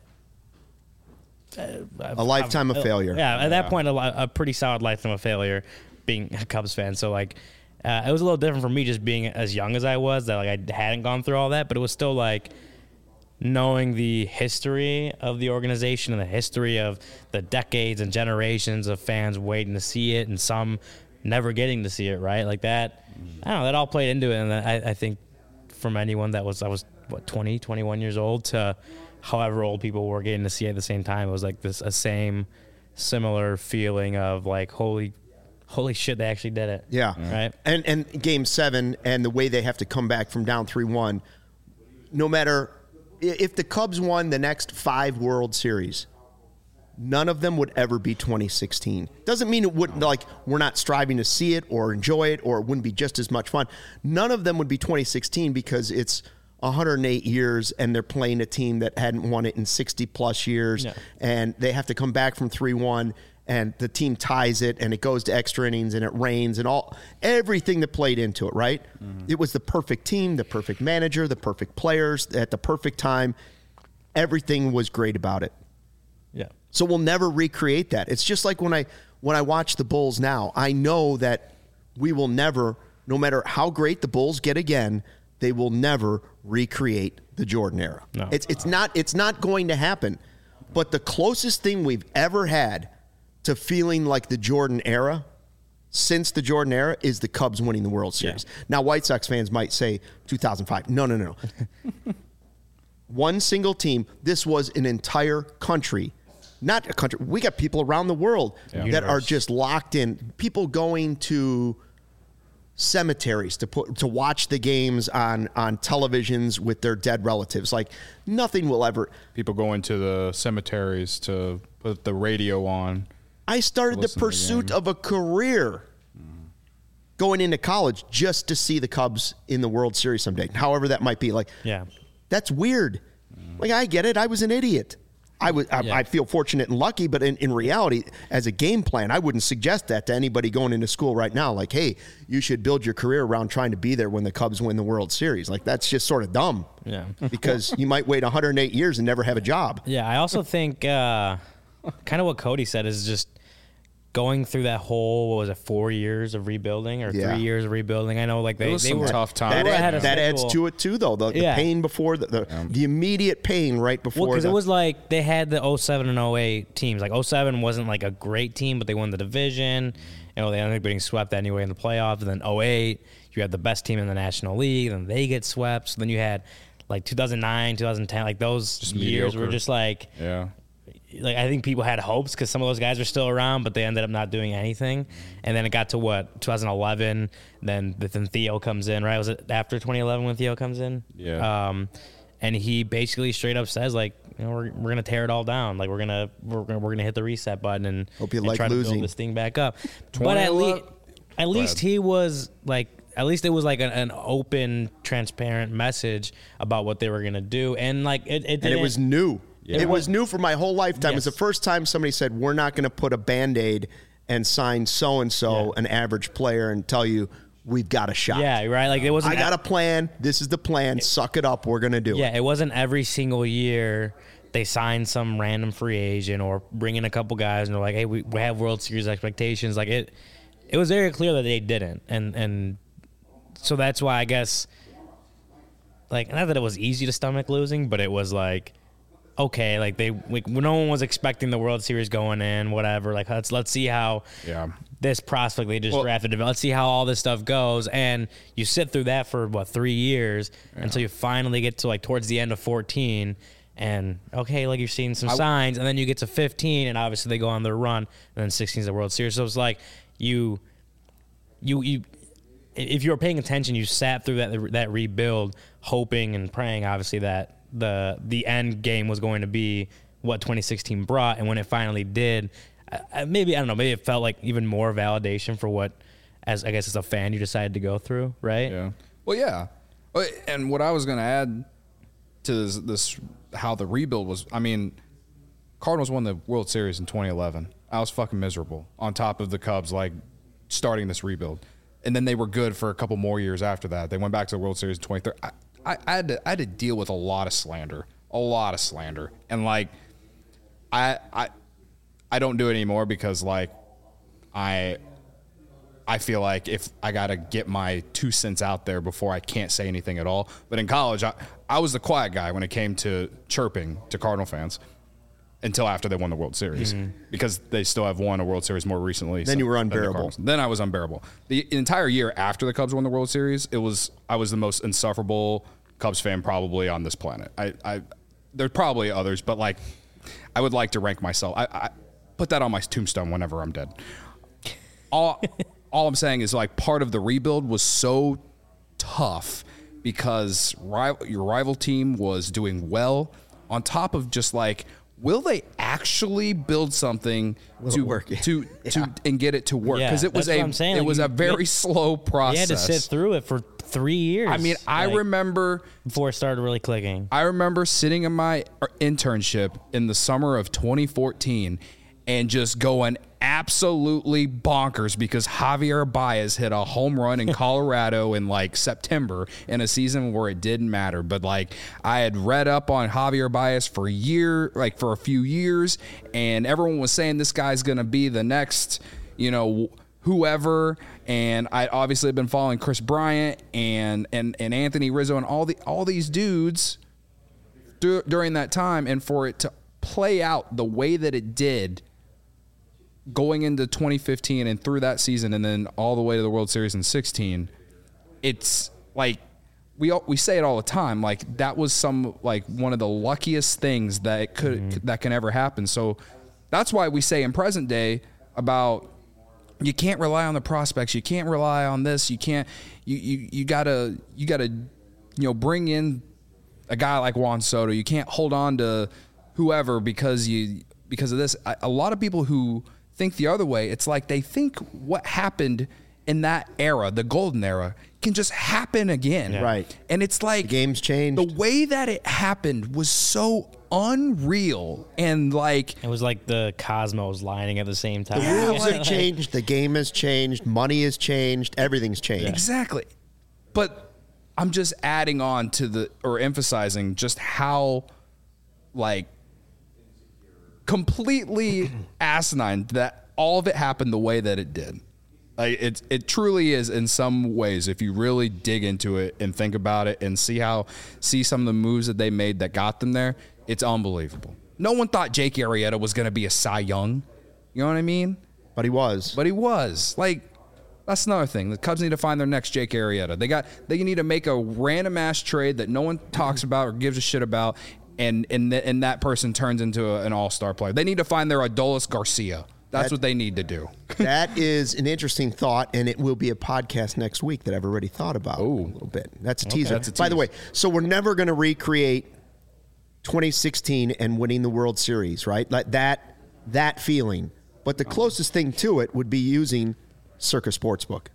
Uh, A lifetime of failure. Yeah, at that Yeah. point, a, li- a pretty solid lifetime of failure, being a Cubs fan. So like, uh, it was a little different for me just being as young as I was. That like I hadn't gone through all that, but it was still like. Knowing the history of the organization and the history of the decades and generations of fans waiting to see it and some never getting to see it, right? Like that, I don't know, that all played into it. And I, I think from anyone that was, I was, what, twenty, twenty-one years old to however old people were getting to see it at the same time, it was like this, a same similar feeling of like, holy, holy shit, they actually did it. Yeah. Right? And and game seven and the way they have to come back from down three one, no matter if the Cubs won the next five World Series, none of them would ever be twenty sixteen. Doesn't mean it wouldn't, like, we're not striving to see it or enjoy it or it wouldn't be just as much fun. None of them would be twenty sixteen because it's one hundred eight years and they're playing a team that hadn't won it in sixty plus years. Yeah. And they have to come back from three one and the team ties it and it goes to extra innings and it rains and all everything that played into it, right? Mm-hmm. It was the perfect team, the perfect manager, the perfect players at the perfect time. Everything was great about it. Yeah. So we'll never recreate that. It's just like when I when I watch the Bulls now, I know that we will never, no matter how great the Bulls get again, they will never recreate the Jordan era. No. It's it's not it's not going to happen. But the closest thing we've ever had to feeling like the Jordan era since the Jordan era is the Cubs winning the World Series. Yeah. Now, White Sox fans might say two thousand five. No, no, no. One single team. This was an entire country. Not a country. We got people around the world Yeah. that Universe. are just locked in. People going to cemeteries to put to watch the games on on televisions with their dead relatives. Like nothing will ever. People going to the cemeteries to put the radio on. I started the listen to the pursuit game. of a career going into college just to see the Cubs in the World Series someday, however that might be. Like, Yeah. that's weird. Like, I get it. I was an idiot. I was. I, Yeah. I feel fortunate and lucky, but in, in reality, as a game plan, I wouldn't suggest that to anybody going into school right now. Like, hey, you should build your career around trying to be there when the Cubs win the World Series. Like, that's just sort of dumb. Yeah. Because you might wait one hundred eight years and never have a job. Yeah, I also think uh, kind of what Cody said is just going through that whole, what was it, four years of rebuilding or Yeah. three years of rebuilding. I know, like they, was they some were tough times. That, They were add- ahead of that adds schedule. to it too, though. The, the Yeah. pain before the the, the immediate pain right before. Well, because the, it was like they had the oh seven and oh eight teams. Like oh seven wasn't like a great team, but they won the division. You know, they ended up getting swept anyway in the playoffs. And then oh eight, you had the best team in the National League, and they get swept. So then you had like two thousand nine, two thousand ten, like those Just years were mediocre. just like, Yeah. like I think people had hopes because some of those guys were still around, but they ended up not doing anything. And then it got to what twenty eleven. Then then Theo comes in, right? Was it after twenty eleven when Theo comes in? Yeah. Um, and he basically straight up says like, you know, we're we're gonna tear it all down. Like we're gonna we're gonna, we're gonna hit the reset button and, Hope you and like try to losing. build this thing back up. But at least at least he was like. At least it was like an, an open, transparent message about what they were gonna do, and like it, it and it didn't- was new. Yeah. It was new for my whole lifetime. It was the Yes. first time somebody said, we're not going to put a Band-Aid and sign so-and-so, Yeah. an average player, and tell you we've got a shot. Yeah, right. Like it wasn't. I got a plan. This is the plan. Suck it up. We're going to do Yeah, it. it wasn't every single year they signed some random free agent or bring in a couple guys and they're like, hey, we, we have World Series expectations. Like it, it was very clear that they didn't, and and so that's why I guess, like, not that it was easy to stomach losing, but it was like, okay, like they, like, no one was expecting the World Series going in, whatever. Like let's let's see how Yeah. this prospect they just Well- drafted. Let's see how all this stuff goes. And you sit through that for what three years until you finally get to like towards the end of fourteen, and okay, like you're seeing some signs, and then you get to fifteen, and obviously they go on their run, and then sixteen is the World Series. So it's like you, you, you. if you were paying attention, you sat through that that rebuild, hoping and praying, obviously, that the the end game was going to be what twenty sixteen brought, and when it finally did, uh, maybe I don't know, maybe it felt like even more validation for what, as I guess as a fan, you decided to go through, right? Yeah. Well, yeah. And what I was going to add to this, this, how the rebuild was, I mean, Cardinals won the World Series in twenty eleven. I was fucking miserable on top of the Cubs, like, starting this rebuild. And then they were good for a couple more years after that. They went back to the World Series in twenty thirteen. I, I, I, had to, I had to deal with a lot of slander, a lot of slander. And, like, I I I don't do it anymore because, like, I I feel like if I got to get my two cents out there before I can't say anything at all. But in college, I, I was the quiet guy when it came to chirping to Cardinal fans until after they won the World Series, mm-hmm. because they still have won a World Series more recently. Then so, you were unbearable. The then I was unbearable. The entire year after the Cubs won the World Series, it was I was the most insufferable Cubs fan probably on this planet. I, I there's probably others, but like I would like to rank myself. I, I put that on my tombstone whenever I'm dead. All all I'm saying is like part of the rebuild was so tough because rival, your rival team was doing well on top of just like, will they actually build something will to work to yeah. to and get it to work? Because Yeah, it was that's a what I'm saying. it Like, was you- a very you- slow process. You had to sit through it for three years. I mean, I like, remember before it started really clicking. I remember sitting in my internship in the summer of twenty fourteen and just going absolutely bonkers because Javier Baez hit a home run in Colorado in like September in a season where it didn't matter. But like I had read up on Javier Baez for a year, like for a few years, and everyone was saying this guy's going to be the next, you know, whoever. And I obviously have been following Chris Bryant and and and Anthony Rizzo and all the all these dudes dur- during that time, and for it to play out the way that it did going into twenty fifteen and through that season and then all the way to the World Series in sixteen, it's like we all, we say it all the time, like that was some like one of the luckiest things that it could mm-hmm. that can ever happen. So that's why we say in present day about you can't rely on the prospects, you can't rely on this, you can't you you you got to you got to you know bring in a guy like Juan Soto. You can't hold on to whoever because you because of this. A lot of people who think the other way, it's like they think what happened in that era, the golden era, can just happen again. Yeah. Right. And it's like the game's changed. The way that it happened was so unreal, and like it was like the cosmos lining at the same time. The rules have changed, the game has changed, money has changed, everything's changed. Exactly. But I'm just adding on to the or emphasizing just how like completely asinine that all of it happened the way that it did. Like it, it truly is in some ways, if you really dig into it and think about it and see how, see some of the moves that they made that got them there, it's unbelievable. No one thought Jake Arrieta was going to be a Cy Young. You know what I mean? But he was. But he was. Like, that's another thing. The Cubs need to find their next Jake Arrieta. They got, they need to make a random ass trade that no one talks about or gives a shit about, and and th- and that person turns into a, an all-star player. They need to find their Adolis Garcia. That's that, what they need to do. That is an interesting thought, and it will be a podcast next week that I've already thought about Ooh. a little bit. That's a teaser. Okay, that's a By the tease. way, so we're never going to recreate twenty sixteen and winning the World Series, right? Like that that feeling. But the closest thing to it would be using Circa Sportsbook.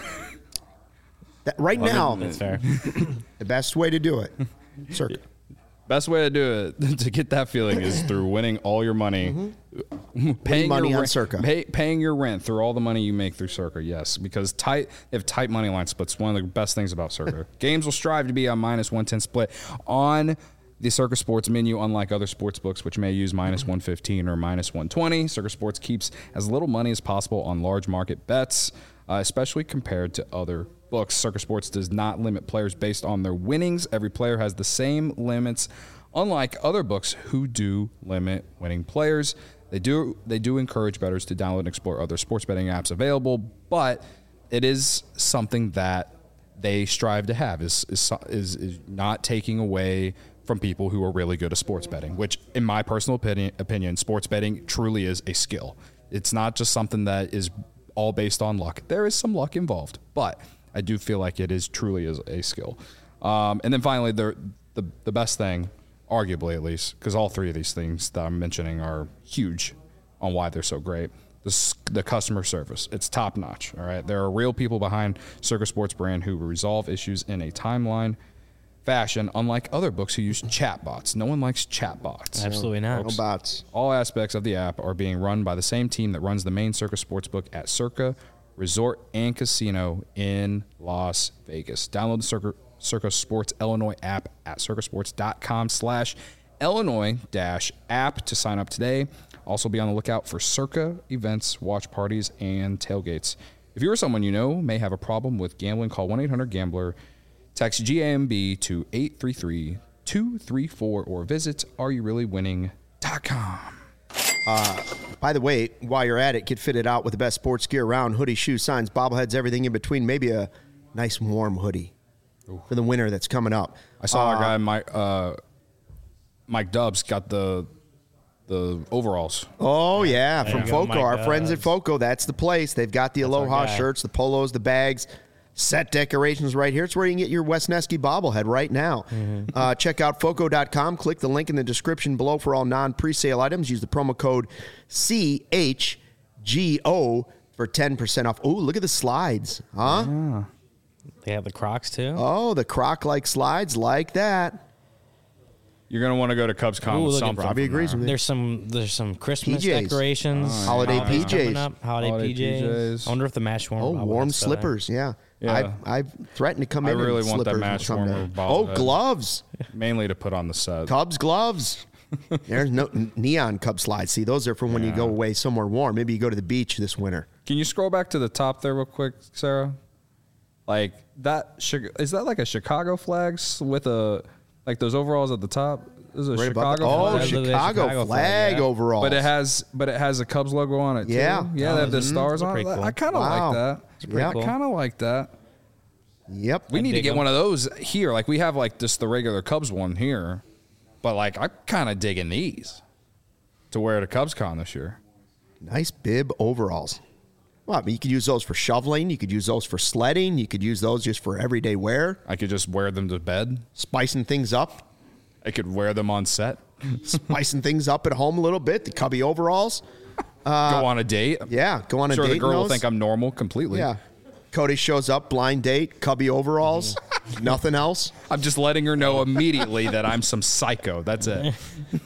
That, right well, now, that's fair. The best way to do it, Circa. Best way to do it to get that feeling is through winning all your money, mm-hmm. paying money your on rent, Circa, pay, paying your rent through all the money you make through Circa. Yes, because tight they have tight money line splits. One of the best things about Circa. Games will strive to be a minus one ten split on the Circa Sports menu, unlike other sports books, which may use minus one fifteen or minus one twenty. Circa Sports keeps as little money as possible on large market bets, uh, especially compared to other books. Circa Sports does not limit players based on their winnings. Every player has the same limits, unlike other books who do limit winning players. They do they do encourage bettors to download and explore other sports betting apps available, but it is something that they strive to have, is is, is, is not taking away from people who are really good at sports betting, which in my personal opinion, opinion, sports betting truly is a skill. It's not just something that is all based on luck. There is some luck involved, but I do feel like it is truly is a skill. Um, and then finally, the, the the best thing, arguably at least, because all three of these things that I'm mentioning are huge on why they're so great. The, the customer service, it's top notch. All right, there are real people behind Circa Sports brand who resolve issues in a timeline fashion, unlike other books who use chatbots. No one likes chatbots. Absolutely not. No bots. All aspects of the app are being run by the same team that runs the main Circa Sportsbook at Circa Resort and Casino in Las Vegas. Download the Circa, Circa Sports Illinois app at circasports.com slash Illinois dash app to sign up today. Also be on the lookout for Circa events, watch parties, and tailgates. If you or someone you know may have a problem with gambling, call one eight hundred gambler. Text G A M B to eight three three, two three four or visit are you really winning dot com. By the way, while you're at it, get fitted out with the best sports gear around. Hoodies, shoes, signs, bobbleheads, everything in between. Maybe a nice warm hoodie Ooh. for the winter that's coming up. I saw uh, our guy, Mike, uh, Mike Dubs, got the the overalls. Oh, yeah, There from you go, Foco. Mike Our friends at Dubs. Foco, that's the place. They've got the Aloha our guy. shirts, the polos, the bags, set decorations right here. It's where you can get your Wesneski bobblehead right now. Mm-hmm. Uh, check out Foco dot com. Click the link in the description below for all non-presale items. Use the promo code C H G O for ten percent off. Oh, look at the slides. Huh? Yeah. They have the Crocs too. Oh, the croc-like slides like that. You're going to want to go to CubsCon Ooh, with look at something. Robbie from agrees there. with me. There's some there's some Christmas P Js. decorations, Holiday holidays P Js. coming up, holiday, Holiday P Js. P Js. I wonder if the match warmer. Oh, bobblehead's warm still there. slippers. Yeah. Yeah. I've, I've threatened to come I in really in want that slippers match someday. warmer Oh, bobblehead. gloves. Mainly to put on the set. Cubs gloves. There's no neon Cub slides. See, those are from when you Yeah. go away somewhere warm. Maybe you go to the beach this winter. Can you scroll back to the top there real quick, Sarah? Like that, Chi- is that like a Chicago flag s- with a, like those overalls at the top? This is a Right above Chicago the- oh, flag. That's the Chicago, Chicago flag, flag, yeah. overall. But it has, but it has a Cubs logo on it. Too. Yeah. yeah, Oh, they have the mhm. stars That's on it. pretty cool. I kind of Wow. like that. pretty I cool. kind of like that. Yep. We need to dig get 'em. one of those here. Like we have like just the regular Cubs one here, but like I'm kind of digging these to wear at a CubsCon this year. Nice bib overalls. Well, I mean, you could use those for shoveling. You could use those for sledding. You could use those just for everyday wear. I could just wear them to bed. Spicing things up. I could wear them on set. Spicing things up at home a little bit. The cubby overalls. Go on a date. Yeah, go on a sure date the girl in will those. think I'm normal completely. Yeah. Cody shows up, blind date, cubby overalls, nothing else. I'm just letting her know immediately that I'm some psycho. That's it.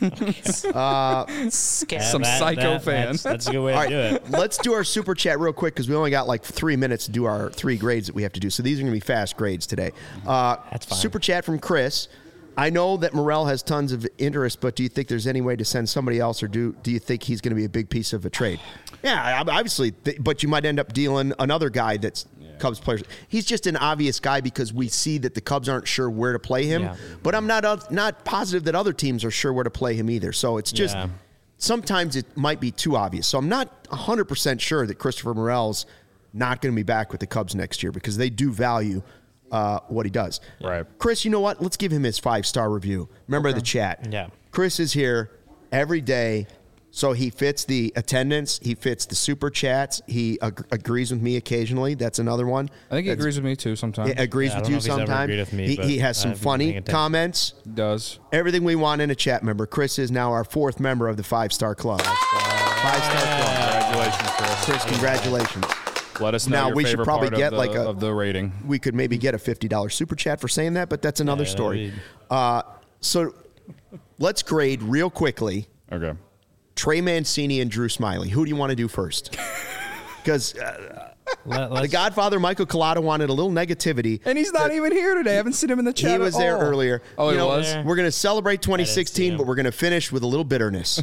Yeah, Some that- psycho that- fan. That's, that's a good way All to do right, it. let's do our super chat real quick because we only got like three minutes to do our three grades that we have to do. So these are going to be fast grades today. Uh, That's fine. Super chat from Chris. I know that Morel has tons of interest, but do you think there's any way to send somebody else, or do do you think he's going to be a big piece of a trade? Yeah, obviously, th- but you might end up dealing another guy that's Cubs players. He's just an obvious guy because we see that the Cubs aren't sure where to play him. Yeah. But I'm not uh, not positive that other teams are sure where to play him either. So it's just Yeah. sometimes it might be too obvious. So I'm not one hundred percent sure that Christopher Morel's not going to be back with the Cubs next year because they do value uh, what he does. Right. Chris, you know what? Let's give him his five-star review. Remember the chat. Yeah. Chris is here every day, so he fits the attendance. He fits the super chats. He ag- agrees with me occasionally. That's another one. I think he That's- agrees with me too sometimes. He agrees Yeah, I with don't know you if he's ever sometimes. agreed with me, he, but he has some I've been funny paying attention. comments. He does. Everything we want in a chat member. Chris is now our fourth member of the five-star club. Five-star club. Congratulations, Chris. Chris, congratulations. Let us know Now, your we should favorite probably part get of the, like a- of the rating. We could maybe get a fifty dollars super chat for saying that, but that's another Yeah, story. that'd be- Uh, so let's grade real quickly Okay. Trey Mancini and Drew Smiley. Who do you want to do first? Because uh, Let, the let's- Godfather, Michael Collada, wanted a little negativity. And he's not even here today. I haven't seen him in the chat. He at was there all. earlier. Oh, You he know, was? We're going to celebrate twenty sixteen, him. but we're going to finish with a little bitterness.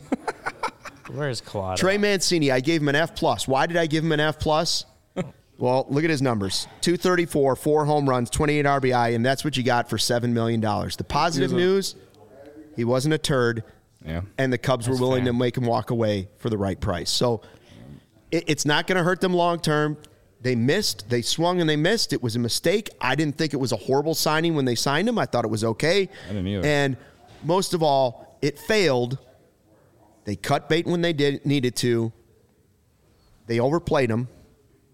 Where's Collada? Trey Mancini, I gave him an F plus. Why did I give him an F plus? Well, look at his numbers: two thirty-four, four home runs, twenty-eight R B I, and that's what you got for seven million dollars. The positive He was a- news: he wasn't a turd, Yeah. and the Cubs were That's willing fair. to make him walk away for the right price. So it, it's not going to hurt them long term. They missed, they swung, and they missed. It was a mistake. I didn't think it was a horrible signing when they signed him. I thought it was okay. I didn't either. And most of all, it failed. They cut bait when they did needed to. They overplayed him.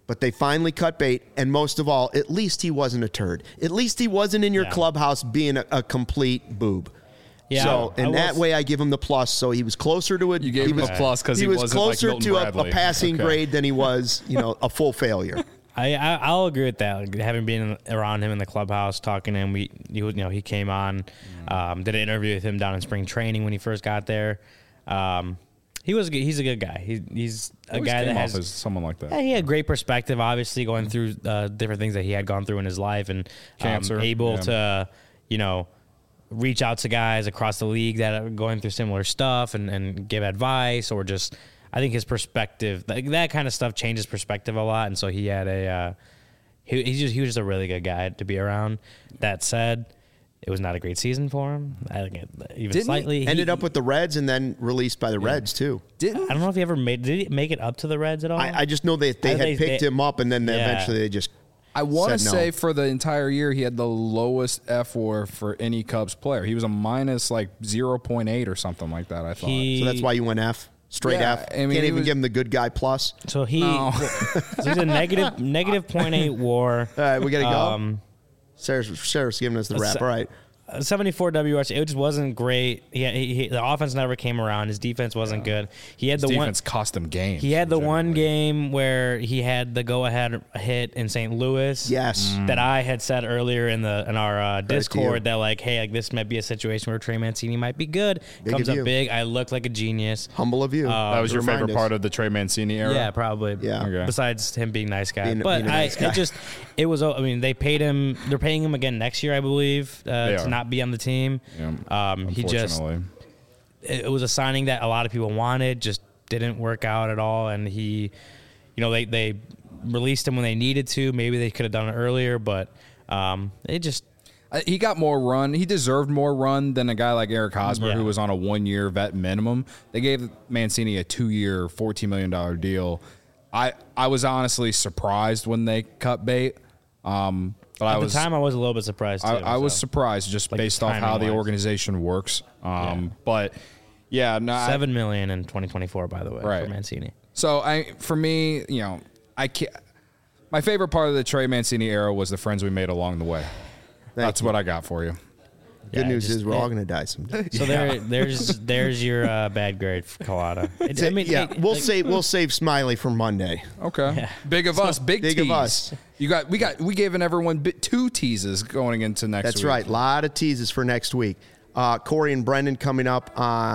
But they finally cut bait, and most of all, at least he wasn't a turd. At least he wasn't in your Yeah. clubhouse being a, a complete boob. Yeah, So I- I in will that s- way, I give him the plus. So he was closer to a. You gave he him was, a plus because he, he was wasn't closer like Milton to a, a Bradley. passing Okay. grade than he was, you know, a full failure. I, I I'll agree with that. Like, having been around him in the clubhouse, talking to him, we you know he came on, um, did an interview with him down in spring training when he first got there. Um, he was a good, he's a good guy. He, he's a Always guy that came off has as someone like that. yeah, he had great perspective. Obviously, going through uh, different things that he had gone through in his life, and um, Cancer, able yeah. to you know reach out to guys across the league that are going through similar stuff and, and give advice, or just I think his perspective, like, that kind of stuff changes perspective a lot. And so he had a uh, he he just he was just a really good guy to be around. That said, it was not a great season for him. I think it, even Didn't he slightly Ended he- up with the Reds and then released by the Reds too. Didn't I don't know if he ever made did he make it up to the Reds at all. I, I just know that they I had think they- picked they- him up, and then they Yeah. eventually they just. I want to said no. say for the entire year he had the lowest F W A R for any Cubs player. He was a minus like zero point eight or something like that. I thought. He- So that's why you went F, straight Yeah, F. I mean, Can't he even was- give him the good guy plus. So he, No. so he's a negative negative point eight WAR. All right, we gotta go. Um, Sarah's, Sarah's giving us the a wrap. se- All right. seventy-four W R C. It just wasn't great. He, he, he the offense never came around. His defense wasn't good. He had His the defense one. cost him games. He had the one legitimately. game where he had the go-ahead hit in Saint Louis. Yes. that I had said earlier in the in our uh, to you. Discord that like, hey, like this might be a situation where Trey Mancini might be good. Big Comes of up you. big. I look like a genius. Humble of you. Uh, That was to your remind favorite us. part of the Trey Mancini era. Yeah, probably. Yeah. Okay. Besides him being a nice guy, Being- but being a I nice guy. it just it was. I mean, they paid him. They're paying him again next year, I believe, uh, They to are. not be on the team. Yeah, Um, he just unfortunately. it it was a signing that a lot of people wanted, just didn't work out at all, and he, you know, they they released him when they needed to. Maybe they could have done it earlier, but um, it just Uh, he got more run. He deserved more run than a guy like Eric Hosmer, Yeah. who was on a one-year vet minimum. They gave Mancini a two-year, fourteen million dollars deal. I I was honestly surprised when they cut bait. Um, but at I was the time I was a little bit surprised. Too, I, I was so. surprised just Like, based off how the timing-wise. organization works. Um, Yeah. But yeah, no, I- seven million in twenty twenty-four, by the way, Right. for Mancini. So I, for me, you know, I can't. My favorite part of the Trey Mancini era was the friends we made along the way. That's you. what I got for you. Good Yeah, news just- is we're it- all going to die someday. So there, there's there's your uh, bad grade, Collada. It, I mean, yeah, it- we'll like- save we'll save Smiley for Monday. Okay. Big of us, big, Big tease. of us. You got we got we gave everyone bit, two teases going into next That's week. right. A lot of teases for next week. Uh, Corey and Brendan coming up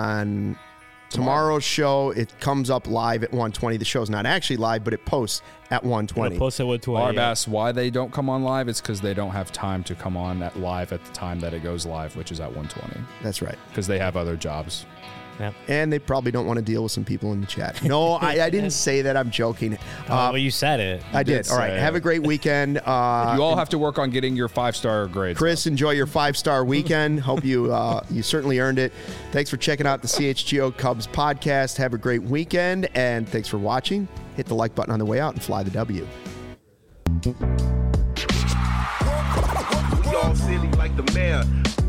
on tomorrow's show. It comes up live at one twenty. The show's not actually live, but it posts at one twenty. Post it with twenty. Barb asks why they don't come on live. It's because they don't have time to come on at live at the time that it goes live, which is at one twenty. That's right. Because they have other jobs. Yep. And they probably don't want to deal with some people in the chat. No, I, I didn't say that. I'm joking. Uh, Uh, well, you said it. I did. did All right. say Have it. a great weekend. Uh, You all have to work on getting your five star grades. Chris, enjoy your five-star weekend. Hope you uh, you certainly earned it. Thanks for checking out the C H G O Cubs podcast. Have a great weekend, and thanks for watching. Hit the like button on the way out and fly the W. We all silly like the mayor.